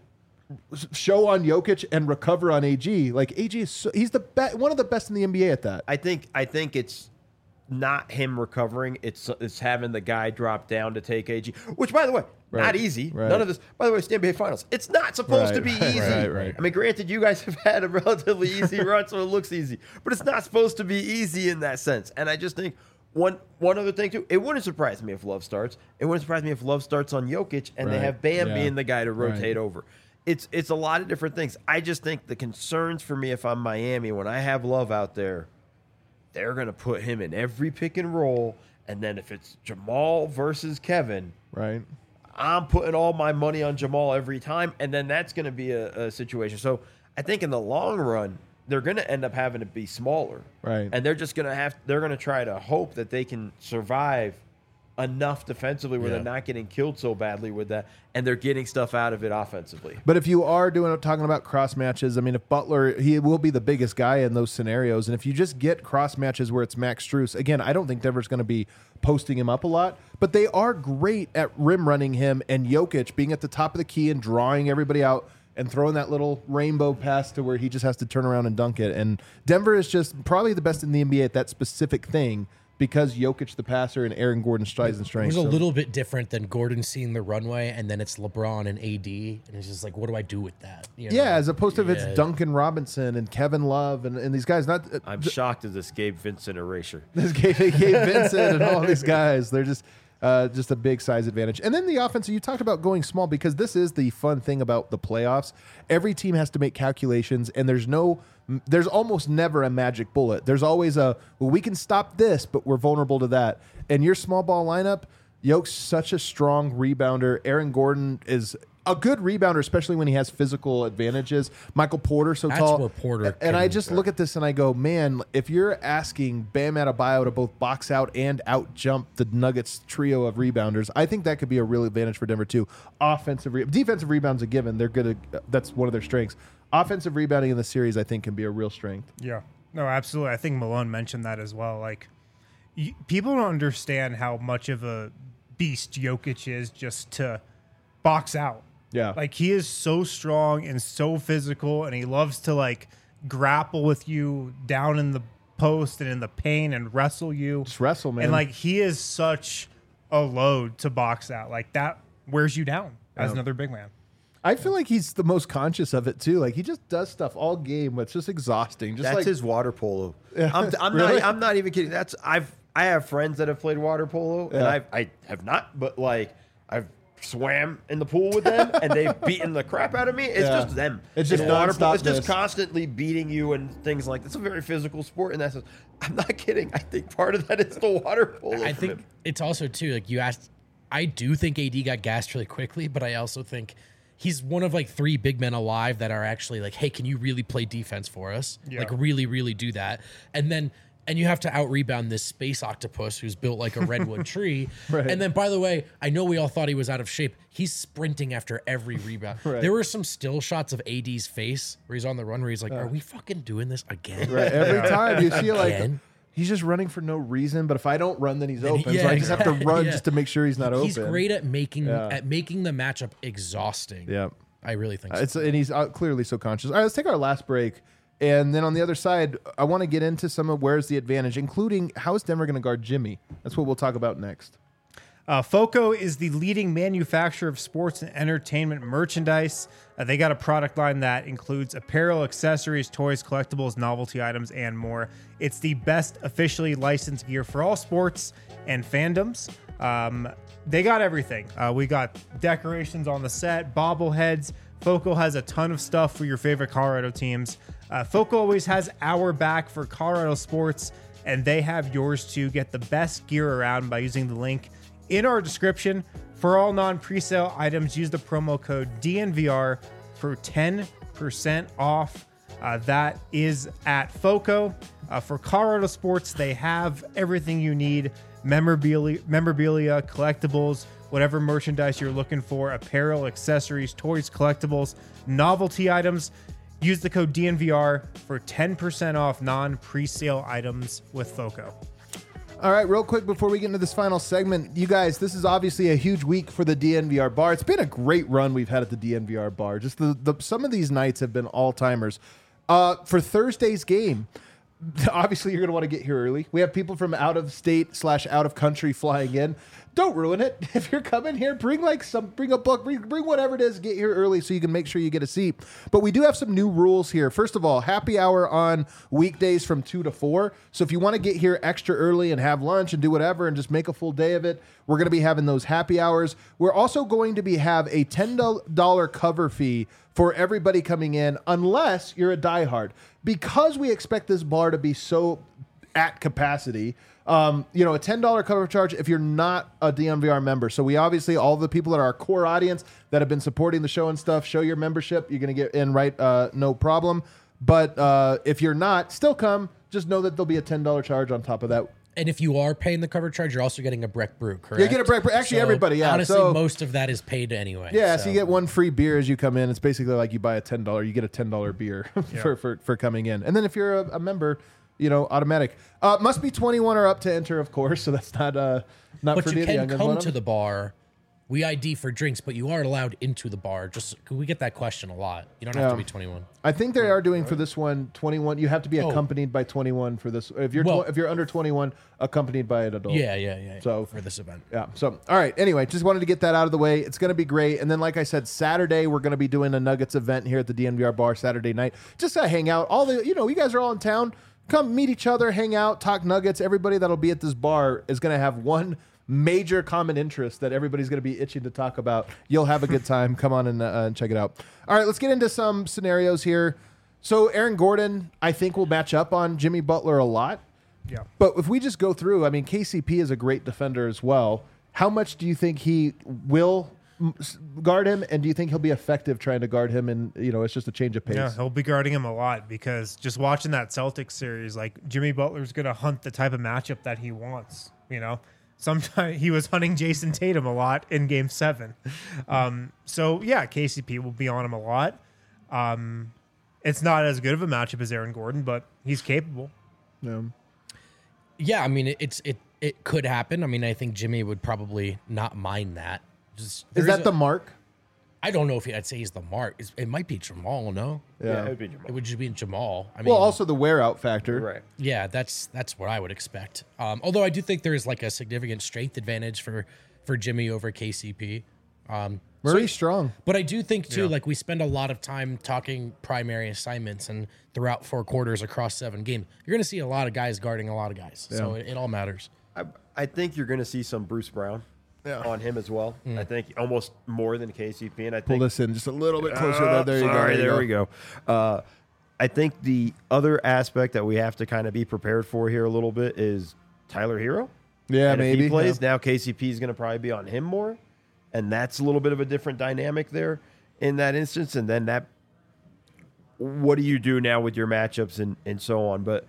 show on Jokic and recover on A G, like A G is, so, he's the best, one of the best in the N B A at that. I think I think it's not him recovering. It's it's having the guy drop down to take A G, which, by the way, Right. not easy. Right. None of this. By the way, it's the N B A Finals. It's not supposed Right, to be right, easy. right, right. I mean, granted, you guys have had a relatively easy run, so it looks easy, but it's not supposed to be easy in that sense. And I just think one one other thing too, it wouldn't surprise me if Love starts. It wouldn't surprise me if Love starts on Jokic and Right. they have Bam Yeah. being the guy to rotate Right. over. It's it's a lot of different things. I just think the concerns for me if I'm Miami when I have Love out there, they're going to put him in every pick and roll. And then if it's Jamal versus Kevin, Right. I'm putting all my money on Jamal every time. And then that's going to be a, a situation. So I think in the long run, they're going to end up having to be smaller. Right. And they're just going to have, they're going to try to hope that they can survive enough defensively where Yeah. they're not getting killed so badly with that. And they're getting stuff out of it offensively. But if you are doing talking about cross matches, I mean, if Butler, he will be the biggest guy in those scenarios. And if you just get cross matches where it's Max Strus, again, I don't think Denver's going to be posting him up a lot, but they are great at rim running him and Jokic being at the top of the key and drawing everybody out and throwing that little rainbow pass to where he just has to turn around and dunk it. And Denver is just probably the best in the N B A at that specific thing because Jokic the passer and Aaron Gordon strides and It strength. was a So- little bit different than Gordon seeing the runway, and then it's LeBron and A D, and it's just like, what do I do with that? You know? Yeah, as opposed to if Yeah. it's Duncan Robinson and Kevin Love and, and these guys. Not I'm shocked at this Gabe Vincent erasure. this Gabe, Gabe Vincent and all these guys. They're just uh, just a big size advantage. And then the offense, you talked about going small because this is the fun thing about the playoffs. Every team has to make calculations, and there's no, there's almost never a magic bullet. There's always a, well, we can stop this, but we're vulnerable to that. And your small ball lineup, Yoke's such a strong rebounder. Aaron Gordon is a good rebounder, especially when he has physical advantages. Michael Porter so That's tall. where Porter and I can- just look at this and I go, man, if you're asking Bam Adebayo to both box out and out jump the Nuggets trio of rebounders, I think that could be a real advantage for Denver too. Offensive, re- defensive rebounds a given. They're good. At, that's one of their strengths. Offensive rebounding in the series, I think, can be a real strength. Yeah. No, absolutely. I think Malone mentioned that as well. Like, y- people don't understand how much of a beast Jokic is just to box out. Yeah. Like, he is so strong and so physical, and he loves to, like, grapple with you down in the post and in the paint and wrestle you. Just wrestle, man. And, like, he is such a load to box out. Like, that wears you down as Yeah. another big man. I feel like he's the most conscious of it too. Like he just does stuff all game, but it's just exhausting. Just That's like his water polo. Yeah. I'm, I'm Really? not. I'm not even kidding. That's I've. I have friends that have played water polo, and Yeah. I I have not. But like I've swam in the pool with them, and they've beaten the crap out of me. It's Yeah. just them. It's just water polo. nonstop It's just this. constantly beating you and things like that. It's a very physical sport, and that's. I'm not kidding. I think part of that is the water polo. I from think him. it's also too like you asked. I do think A D got gassed really quickly, but I also think he's one of like three big men alive that are actually like, hey, can you really play defense for us? Yeah. Like really, really do that. And then and you have to out rebound this space octopus who's built like a redwood tree. Right. And then by the way, I know we all thought he was out of shape. He's sprinting after every rebound. Right. There were some still shots of A D's face where he's on the run where he's like, are we fucking doing this again? right, every time you see like Again? he's just running for no reason. But if I don't run, then he's Then he- open. so yeah, I just have to run yeah. just to make sure he's not open. He's great at making Yeah. at making the matchup exhausting. Yeah. I really think so. It's and he's uh, clearly so conscious. All right, let's take our last break, and then on the other side, I want to get into some of where's the advantage, including how is Denver going to guard Jimmy. That's what we'll talk about next. Uh, Foco is the leading manufacturer of sports and entertainment merchandise. Uh, they got a product line that includes apparel, accessories, toys, collectibles, novelty items, and more. It's the best officially licensed gear for all sports and fandoms. Um, they got everything. Uh, we got decorations on the set, bobbleheads. Foco has a ton of stuff for your favorite Colorado teams. Uh, Foco always has our back for Colorado sports, and they have yours too. Get the best gear around by using the link in our description. For all non-presale items, use the promo code D N V R for ten percent off. Uh, that is at Foco. Uh, for Colorado Sports, they have everything you need: memorabilia, memorabilia, collectibles, whatever merchandise you're looking for, apparel, accessories, toys, collectibles, novelty items. Use the code D N V R for ten percent off non-presale items with FOCO. All right, real quick before we get into this final segment, you guys, this is obviously a huge week for the D N V R bar. It's been a great run we've had at the D N V R bar. Just the, the some of these nights have been all-timers. Uh, for Thursday's game, obviously you're going to want to get here early. We have people from out of state slash out of country flying in. Don't ruin it. If you're coming here, bring like some, bring a book, bring, bring whatever it is, get here early so you can make sure you get a seat. But we do have some new rules here. First of all, happy hour on weekdays from two to four. So if you want to get here extra early and have lunch and do whatever and just make a full day of it, we're going to be having those happy hours. We're also going to be have a ten dollars cover fee for everybody coming in, unless you're a diehard. Because we expect this bar to be so at capacity, um, you know, a ten dollars cover charge if you're not a D N V R member. So we obviously, all the people that are our core audience that have been supporting the show and stuff, show your membership. You're going to get in, right? Uh, no problem. But uh, if you're not, still come. Just know that there'll be a ten dollars charge on top of that. And if you are paying the cover charge, you're also getting a Breck Brew, correct? You get a Breck Brew. Actually, So, everybody, yeah. Honestly, So- most of that is paid anyway. Yeah, so. you get one free beer as you come in. It's basically like you buy a ten dollars, you get a ten dollars beer for, for, for coming in. And then if you're a, a member, you know, automatic. Uh, must be twenty-one or up to enter, of course. So that's not uh, not But for you the young can ones. come to the bar. We I D for drinks, but you are allowed into the bar. Just we get that question a lot. You don't have Yeah. to be twenty-one. I think they are doing for this one twenty-one. You have to be Oh. accompanied by twenty-one for this. If you're Well- tw- if you're under twenty-one, accompanied by an adult. Yeah, yeah, yeah. So- for this event. Yeah. So, all right. Anyway, just wanted to get that out of the way. It's going to be great. And then, like I said, Saturday we're going to be doing a Nuggets event here at the D N V R bar Saturday night. Just to hang out. All the, you know, you guys are all in town. Come meet each other, hang out, talk Nuggets. Everybody that'll be at this bar is going to have one major common interest that everybody's going to be itching to talk about. You'll have a good time. Come on and, uh, and check it out. All right, let's get into some scenarios here. So, Aaron Gordon, I think, will match up on Jimmy Butler a lot. Yeah. But if we just go through, I mean, K C P is a great defender as well. How much do you think he will m- s- guard him, and do you think he'll be effective trying to guard him? And you know, it's just a change of pace. Yeah, he'll be guarding him a lot because just watching that Celtics series, like Jimmy Butler's going to hunt the type of matchup that he wants. You know, sometimes he was hunting Jason Tatum a lot in Game Seven. Um, so yeah, K C P will be on him a lot. Um, it's not as good of a matchup as Aaron Gordon, but he's capable. Yeah. Yeah, I mean it, it's it it could happen. I mean, I think Jimmy would probably not mind that. Just, Is there's that a- the mark? I don't know if he, I'd say he's the mark. It's, it might be Jamal. No, Yeah, it would be Jamal. it would just be Jamal. I mean, Well, also the wear out factor. Right. yeah, that's that's what I would expect. Um, although I do think there is like a significant strength advantage for for Jimmy over K C P. Um, Murray's strong. But I do think too, like we spend a lot of time talking primary assignments, and throughout four quarters across seven games, you're going to see a lot of guys guarding a lot of guys. So it, it all matters. I, I think you're going to see some Bruce Brown Yeah. on him as well. I think almost more than K C P. And I Pull think this in just a little bit closer. Oh, there, there you go. sorry, you there we go. Uh, I think the other aspect that we have to kind of be prepared for here a little bit is Tyler Hero. Yeah, and if maybe. he plays, yeah. now K C P is going to probably be on him more. And that's a little bit of a different dynamic there in that instance. And then that, what do you do now with your matchups and, and so on? But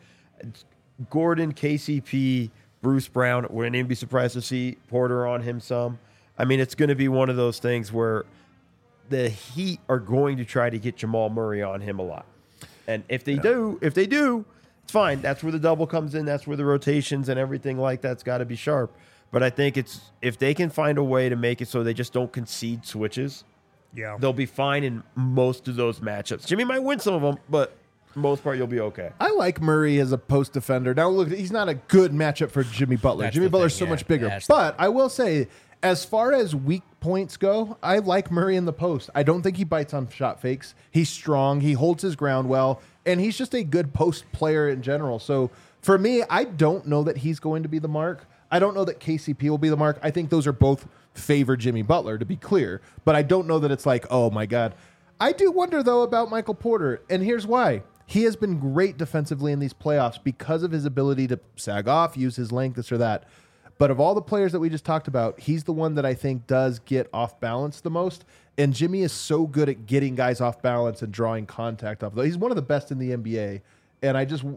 Gordon, K C P, Bruce Brown, wouldn't even be surprised to see Porter on him some. I mean, it's going to be one of those things where the Heat are going to try to get Jamal Murray on him a lot. And if they do, if they do, it's fine. That's where the double comes in. That's where the rotations and everything like that's got to be sharp. But I think it's if they can find a way to make it so they just don't concede switches, Yeah. they'll be fine in most of those matchups. Jimmy might win some of them, but for the most part, you'll be okay. I like Murray as a post defender. Now, look, he's not a good matchup for Jimmy Butler. That's Jimmy the Butler's thing, so yeah. much bigger. Yeah, that's the But I will say, as far as weak points go, I like Murray in the post. I don't think he bites on shot fakes. He's strong. He holds his ground well. And he's just a good post player in general. So for me, I don't know that he's going to be the mark. I don't know that K C P will be the mark. I think those are both favor Jimmy Butler, to be clear. But I don't know that it's like, oh, my God. I do wonder, though, about Michael Porter. And here's why. He has been great defensively in these playoffs because of his ability to sag off, use his length, this or that. But of all the players that we just talked about, he's the one that I think does get off balance the most. And Jimmy is so good at getting guys off balance and drawing contact off. He's one of the best in the N B A. And I just,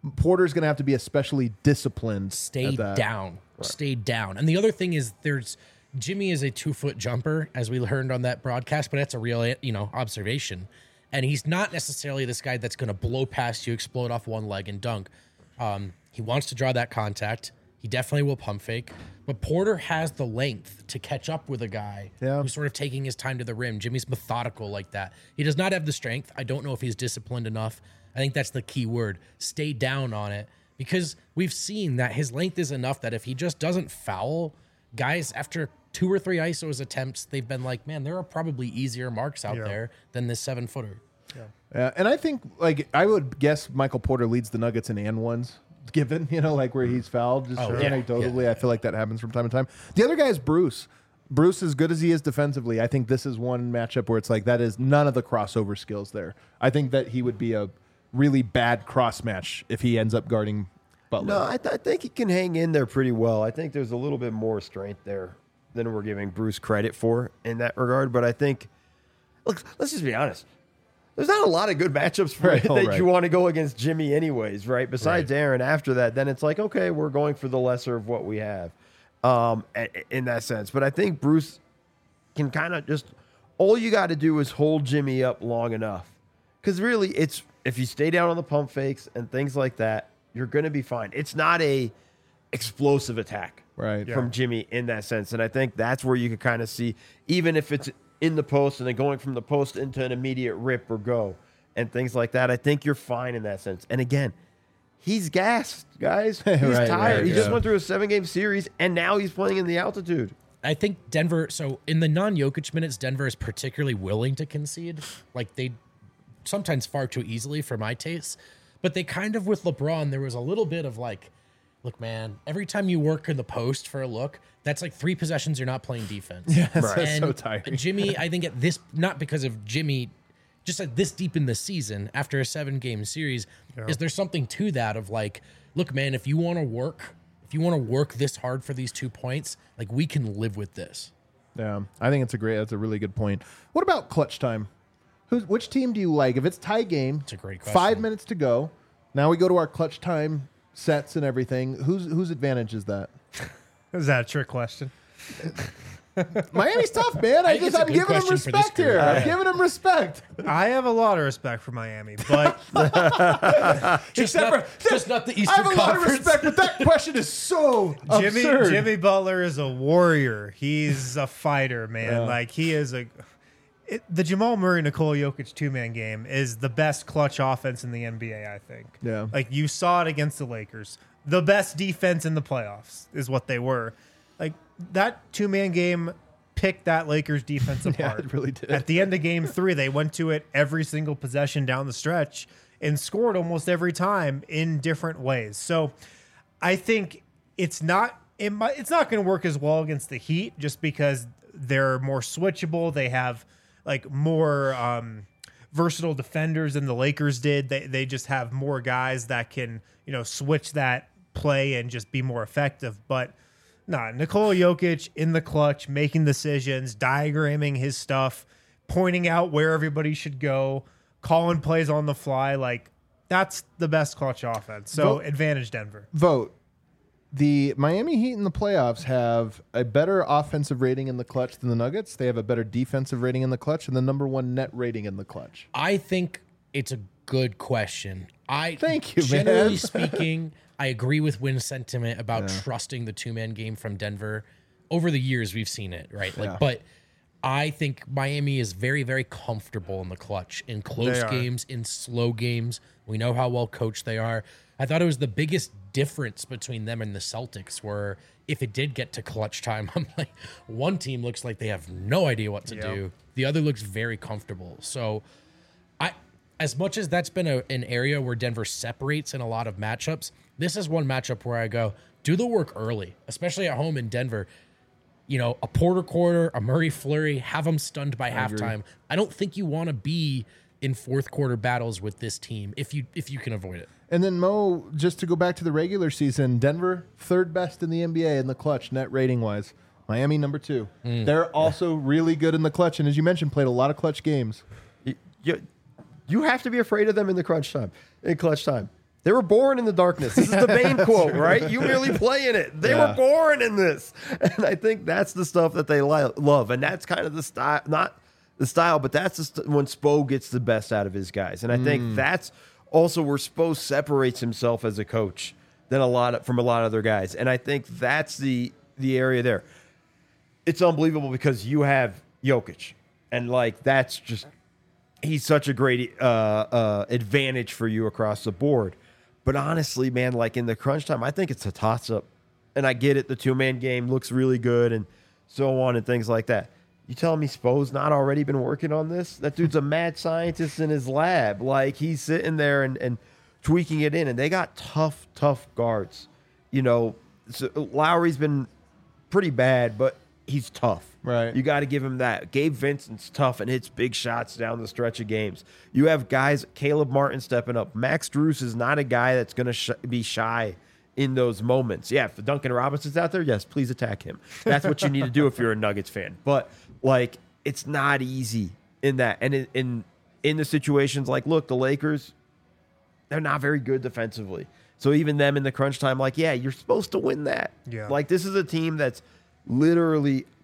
Porter's going to have to be especially disciplined. Stay at that. down. Stay down. And the other thing is there's Jimmy is a two-foot jumper, as we learned on that broadcast, but that's a real, you know, observation. And he's not necessarily this guy that's going to blow past you, explode off one leg, and dunk. Um, he wants to draw that contact. He definitely will pump fake. But Porter has the length to catch up with a guy Yeah. who's sort of taking his time to the rim. Jimmy's methodical like that. He does not have the strength. I don't know if he's disciplined enough. I think that's the key word. Stay down on it. Because we've seen that his length is enough that if he just doesn't foul, guys, after two or three I S Os attempts, they've been like, man, there are probably easier marks out Yeah. there than this seven footer. Yeah, and I think like I would guess Michael Porter leads the Nuggets in and ones, given you know like where he's fouled. Just Oh, sure, yeah. anecdotally, Yeah. I feel like that happens from time to time. The other guy is Bruce. Bruce, as good as he is defensively, I think this is one matchup where it's like that is none of the crossover skills there. I think that he would be a really bad cross match if he ends up guarding Butler. No, I, th- I think he can hang in there pretty well. I think there's a little bit more strength there than we're giving Bruce credit for in that regard. But I think, look, let's just be honest. There's not a lot of good matchups for Right, that all right. you want to go against Jimmy anyways, right? Besides Right. Aaron after that, then it's like, okay, we're going for the lesser of what we have um, a- in that sense. But I think Bruce can kind of just, all you got to do is hold Jimmy up long enough. Because really, it's if you stay down on the pump fakes and things like that, you're going to be fine. It's not a explosive attack Right. from Jimmy in that sense. And I think that's where you can kind of see, even if it's in the post and then going from the post into an immediate rip or go and things like that, I think you're fine in that sense. And again, he's gassed, guys. He's Right, tired. right, he just yeah. went through a seven-game series, and now he's playing in the altitude. I think Denver, so in the non-Jokic minutes, Denver is particularly willing to concede. Like they sometimes far too easily for my taste. But they kind of, with LeBron, there was a little bit of like, look, man, every time you work in the post for a look, that's like three possessions you're not playing defense. Yeah, that's And so tiring. Jimmy, I think at this, not because of Jimmy, just like this deep in the season after a seven game series, is there something to that of like, look, man, if you want to work, if you want to work this hard for these two points, like we can live with this. Yeah, I think it's a great. That's a really good point. What about clutch time? Who's which team do you like? If it's tie game, It's a great question. Five minutes to go. Now we go to our clutch time sets and everything. Whose whose advantage is that? Is that a trick question? Miami's tough, man. I, think just it's a I'm good giving them question for this respect group. here. I'm Yeah. giving them respect. I have a lot of respect for Miami, but Just, Except not, for- just not the I Eastern have a lot of Conference. respect, but that question is so Jimmy absurd. Jimmy Butler is a warrior. He's a fighter, man. Yeah. Like he is a. It, the Jamal Murray Nikola Jokic two man game is the best clutch offense in the N B A. I think. Yeah. Like you saw it against the Lakers. The best defense in the playoffs is what they were. Like that two man game picked that Lakers defense Yeah, apart. it really did. At the end of game three, they went to it every single possession down the stretch and scored almost every time in different ways. So I think it's not it might, it's not going to work as well against the Heat just because they're more switchable. They have like more um, versatile defenders than the Lakers did. They they just have more guys that can, you know, switch that play and just be more effective. But nah, Nikola Jokic in the clutch, making decisions, diagramming his stuff, pointing out where everybody should go, calling plays on the fly. Like that's the best clutch offense. So Vote- advantage Denver. Vote. The Miami Heat in the playoffs have a better offensive rating in the clutch than the Nuggets. They have a better defensive rating in the clutch and the number one net rating in the clutch. I think it's a good question. I Thank you, generally man. speaking, I agree with Wynn's sentiment about trusting the two man game from Denver. Over the years, we've seen it, right? Like, Yeah. but I think Miami is very, very comfortable in the clutch, in close They are. games, in slow games. We know how well coached they are. I thought it was the biggest difference between them and the Celtics, where if it did get to clutch time, I'm like, one team looks like they have no idea what to Yep. do. The other looks very comfortable. So I, as much as that's been a, an area where Denver separates in a lot of matchups, this is one matchup where I go, do the work early, especially at home in Denver. You know, a Porter quarter, a Murray flurry, have them stunned by halftime. I don't think you want to be in fourth quarter battles with this team if you if you can avoid it. And then Mo, just to go back to the regular season, Denver third best in the N B A in the clutch net rating wise. Miami number two. They're also really good in the clutch, and as you mentioned, played a lot of clutch games. You, you, you have to be afraid of them in the crunch time, in clutch time. They were born in the darkness. This is the Bane quote, right? You merely play in it. They Yeah. were born in this. And I think that's the stuff that they li- love. And that's kind of the style, not the style, but that's the st- when Spo gets the best out of his guys. And I think that's also where Spo separates himself as a coach than a lot of, from a lot of other guys. And I think that's the the area there. It's unbelievable because you have Jokic. And, like, that's just – he's such a great uh, uh, advantage for you across the board. But honestly, man, like in the crunch time, I think it's a toss-up. And I get it. The two-man game looks really good and so on and things like that. You telling me Spo's not already been working on this? That dude's a mad scientist in his lab. Like, he's sitting there and, and tweaking it in. And they got tough, tough guards. You know, so Lowry's been pretty bad, but he's tough. Right. You got to give him that. Gabe Vincent's tough and hits big shots down the stretch of games. You have guys, Caleb Martin stepping up. Max Strus is not a guy that's going to sh- be shy in those moments. Yeah, if Duncan Robinson's out there, yes, please attack him. That's what you need to do if you're a Nuggets fan. But, like, it's not easy in that. And in, in, in the situations like, look, the Lakers, they're not very good defensively. So even them in the crunch time, like, yeah, you're supposed to win that. Yeah. Like, this is a team that's literally –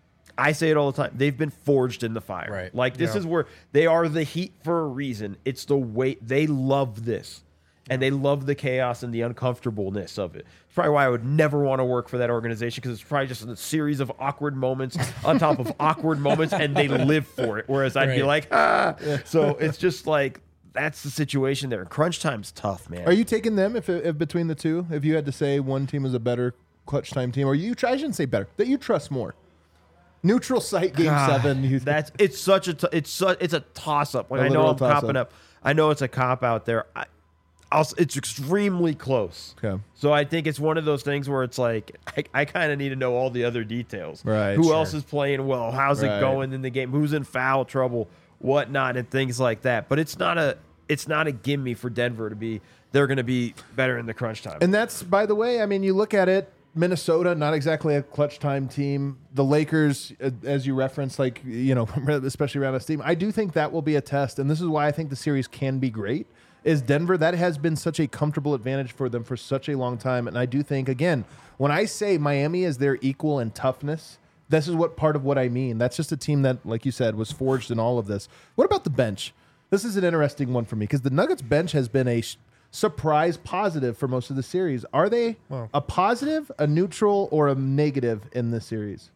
I say it all the time. They've been forged in the fire. Right. Like, this Yeah. is where they are the Heat for a reason. It's the way they love this. And they love the chaos and the uncomfortableness of it. It's probably why I would never want to work for that organization, because it's probably just a series of awkward moments on top of awkward moments, and they live for it. Whereas I'd be Right. like, ah. So it's just like, that's the situation there. Crunch time's tough, man. Are you taking them if, if between the two? If you had to say one team is a better clutch time team, or you try, I shouldn't say better, that you trust more. Neutral site game God, seven. You That's it's such a t- it's su- it's a toss up. Like, A I know literal I'm toss-up. copping up. I know it's a cop out there. I, I'll, s- it's extremely close. Okay. So I think it's one of those things where it's like I, I kind of need to know all the other details. Right, Who sure. else is playing well? How's Right. it going in the game? Who's in foul trouble? Whatnot and things like that. But it's not a it's not a gimme for Denver to be. They're going to be better in the crunch time. And that's, by the way, I mean, you look at it, Minnesota, not exactly a clutch time team. The Lakers, uh, as you referenced, like, you know, especially around this team, I do think that will be a test. And this is why I think the series can be great, is Denver. That has been such a comfortable advantage for them for such a long time. And I do think, again, when I say Miami is their equal in toughness, this is what part of what I mean. That's just a team that, like you said, was forged in all of this. What about the bench? This is an interesting one for me, because the Nuggets bench has been a sh- surprise positive for most of the series. Are they Well- a positive, a neutral, or a negative in this series?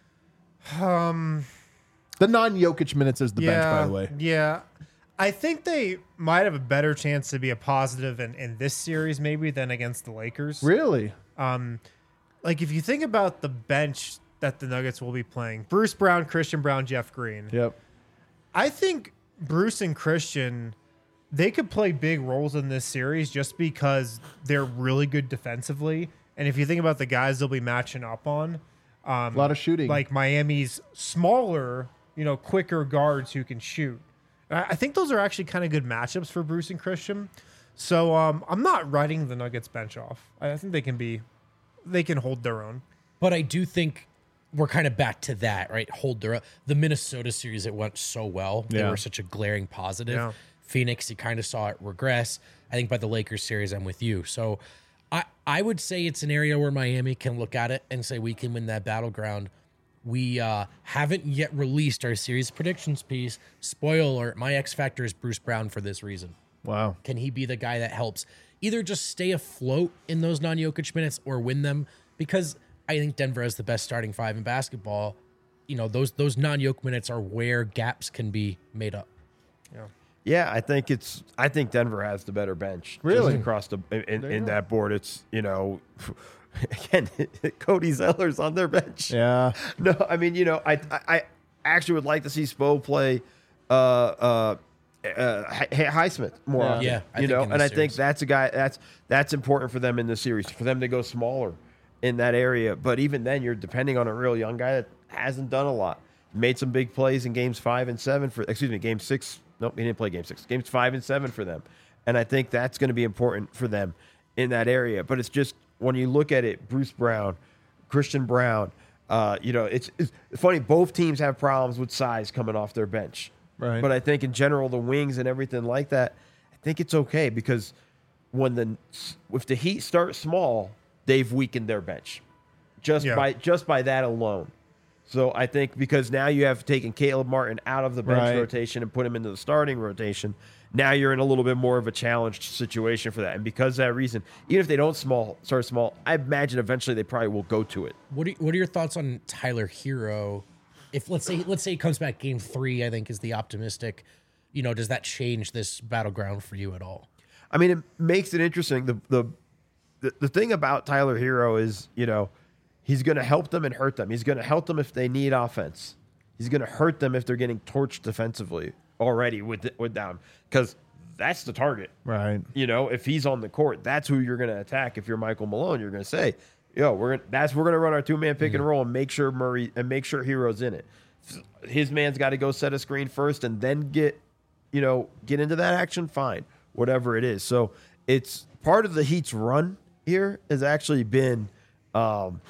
Um, the non-Jokic minutes is the bench, by the way. Yeah. I think they might have a better chance to be a positive in, in this series maybe than against the Lakers. Really? Like, if you think about the bench that the Nuggets will be playing, Bruce Brown, Christian Brown, Jeff Green. Yep. I think Bruce and Christian, they could play big roles in this series just because they're really good defensively. And if you think about the guys they'll be matching up on, um, A lot of shooting. like Miami's smaller, you know, quicker guards who can shoot. I I think those are actually kind of good matchups for Bruce and Christian. So um, I'm not writing the Nuggets bench off. I I think they can be, they can hold their own. But I do think we're kind of back to that, right? Hold their the Minnesota series, it went so well. They Yeah. were such a glaring positive. Yeah. Phoenix, you kind of saw it regress. I think by the Lakers series, I'm with you. So I, I would say it's an area where Miami can look at it and say we can win that battleground. We uh, haven't yet released our series predictions piece. Spoiler, my X factor is Bruce Brown for this reason. Wow. Can he be the guy that helps either just stay afloat in those non-Jokic minutes or win them? Because I think Denver has the best starting five in basketball. You know, those those non-Jokic minutes are where gaps can be made up. Yeah, I think it's. I think Denver has the better bench. just Really? across the in, you in go. that board, it's you know, again, Cody Zeller's on their bench. Yeah. No, I mean, you know, I I, I actually would like to see Spo play uh uh, uh Hi- Highsmith more Yeah. often. Yeah, I you think know, in and I this think series. that's a guy that's that's important for them in the series for them to go smaller in that area. But even then, you're depending on a real young guy that hasn't done a lot. Made some big plays in games five and seven for excuse me, game six. Nope, he didn't play game six. Games five and seven for them. And I think that's going to be important for them in that area. But it's just when you look at it, Bruce Brown, Christian Brown, uh, you know, it's, it's funny. Both teams have problems with size coming off their bench. Right. But I think in general, the wings and everything like that, I think it's okay because when the if the Heat start small, they've weakened their bench just Yeah. by just by that alone. So I think because now you have taken Caleb Martin out of the bench Right. rotation and put him into the starting rotation, now you're in a little bit more of a challenged situation for that. And because of that reason, even if they don't small start small, I imagine eventually they probably will go to it. What are, what are your thoughts on Tyler Hero? If let's say let's say he comes back game three, I think is the optimistic. You know, does that change this battleground for you at all? I mean, it makes it interesting. The the the, the thing about Tyler Hero is, you know, he's going to help them and hurt them. He's going to help them if they need offense. He's going to hurt them if they're getting torched defensively already with with them, because that's the target. Right. You know, if he's on the court, that's who you're going to attack. If you're Michael Malone, you're going to say, "Yo, we're gonna, that's we're going to run our two man pick and roll and make sure Murray and make sure Hero's in it. His man's got to go set a screen first and then get, you know, get into that action. Fine, whatever it is. So it's part of the Heat's run here has actually been um,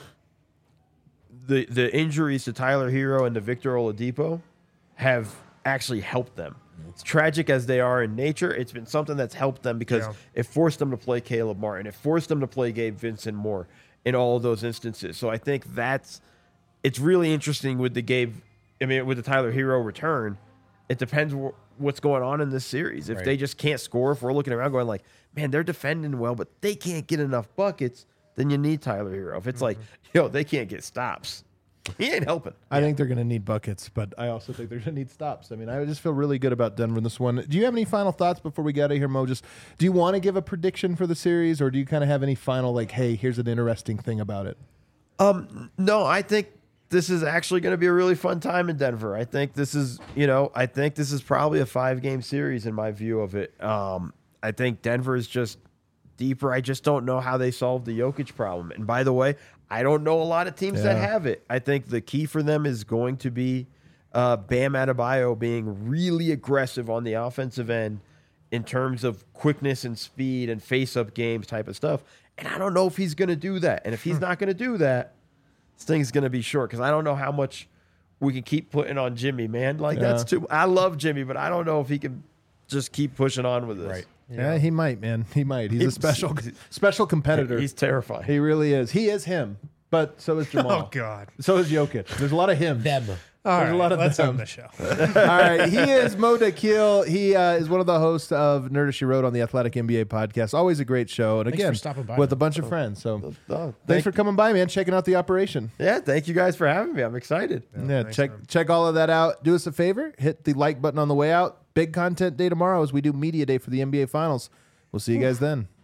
the the injuries to Tyler Hero and to Victor Oladipo have actually helped them. It's tragic as they are in nature. It's been something that's helped them because Yeah. it forced them to play Caleb Martin. It forced them to play Gabe Vincent more in all of those instances. So I think that's it's really interesting with the Gabe. I mean, with the Tyler Hero return, it depends wh- what's going on in this series. If Right. they just can't score, if we're looking around going like, man, they're defending well, but they can't get enough buckets, then you need Tyler Hero. If it's like, yo, they can't get stops, he ain't helping. I think they're going to need buckets, but I also think they're going to need stops. I mean, I just feel really good about Denver in this one. Do you have any final thoughts before we get out of here, Mo? Just do you want to give a prediction for the series, or do you kind of have any final like, hey, here's an interesting thing about it? Um, no, I think this is actually going to be a really fun time in Denver. I think this is, you know, I think this is probably a five game series in my view of it. Um, I think Denver is just deeper. I just don't know how they solve the Jokic problem. And by the way, I don't know a lot of teams that Yeah. have it. I think the key for them is going to be uh, Bam Adebayo being really aggressive on the offensive end in terms of quickness and speed and face-up games type of stuff. And I don't know if he's going to do that. And if he's not going to do that, this thing's going to be short because I don't know how much we can keep putting on Jimmy, man. Like, Yeah. that's too – I love Jimmy, but I don't know if he can just keep pushing on with this. Right. Yeah, he might, man. He might. He's a He's- special special competitor. He's terrifying. He really is. He is him, but so is Jamal. Oh God. So is Jokic. There's a lot of him. Them. All There's a right, lot of let's them. end the show. All right. He is Mo Dakhil. He uh, is one of the hosts of Nerd as She Wrote on the Athletic N B A podcast. Always a great show. And Thanks again, for stopping by, with man. a bunch of friends. So Oh, thanks thank- for coming by, man. Checking out the operation. Yeah, thank you guys for having me. I'm excited. Yeah, thanks, check man. check all of that out. Do us a favor. Hit the like button on the way out. Big content day tomorrow as we do media day for the N B A Finals. We'll see you guys then.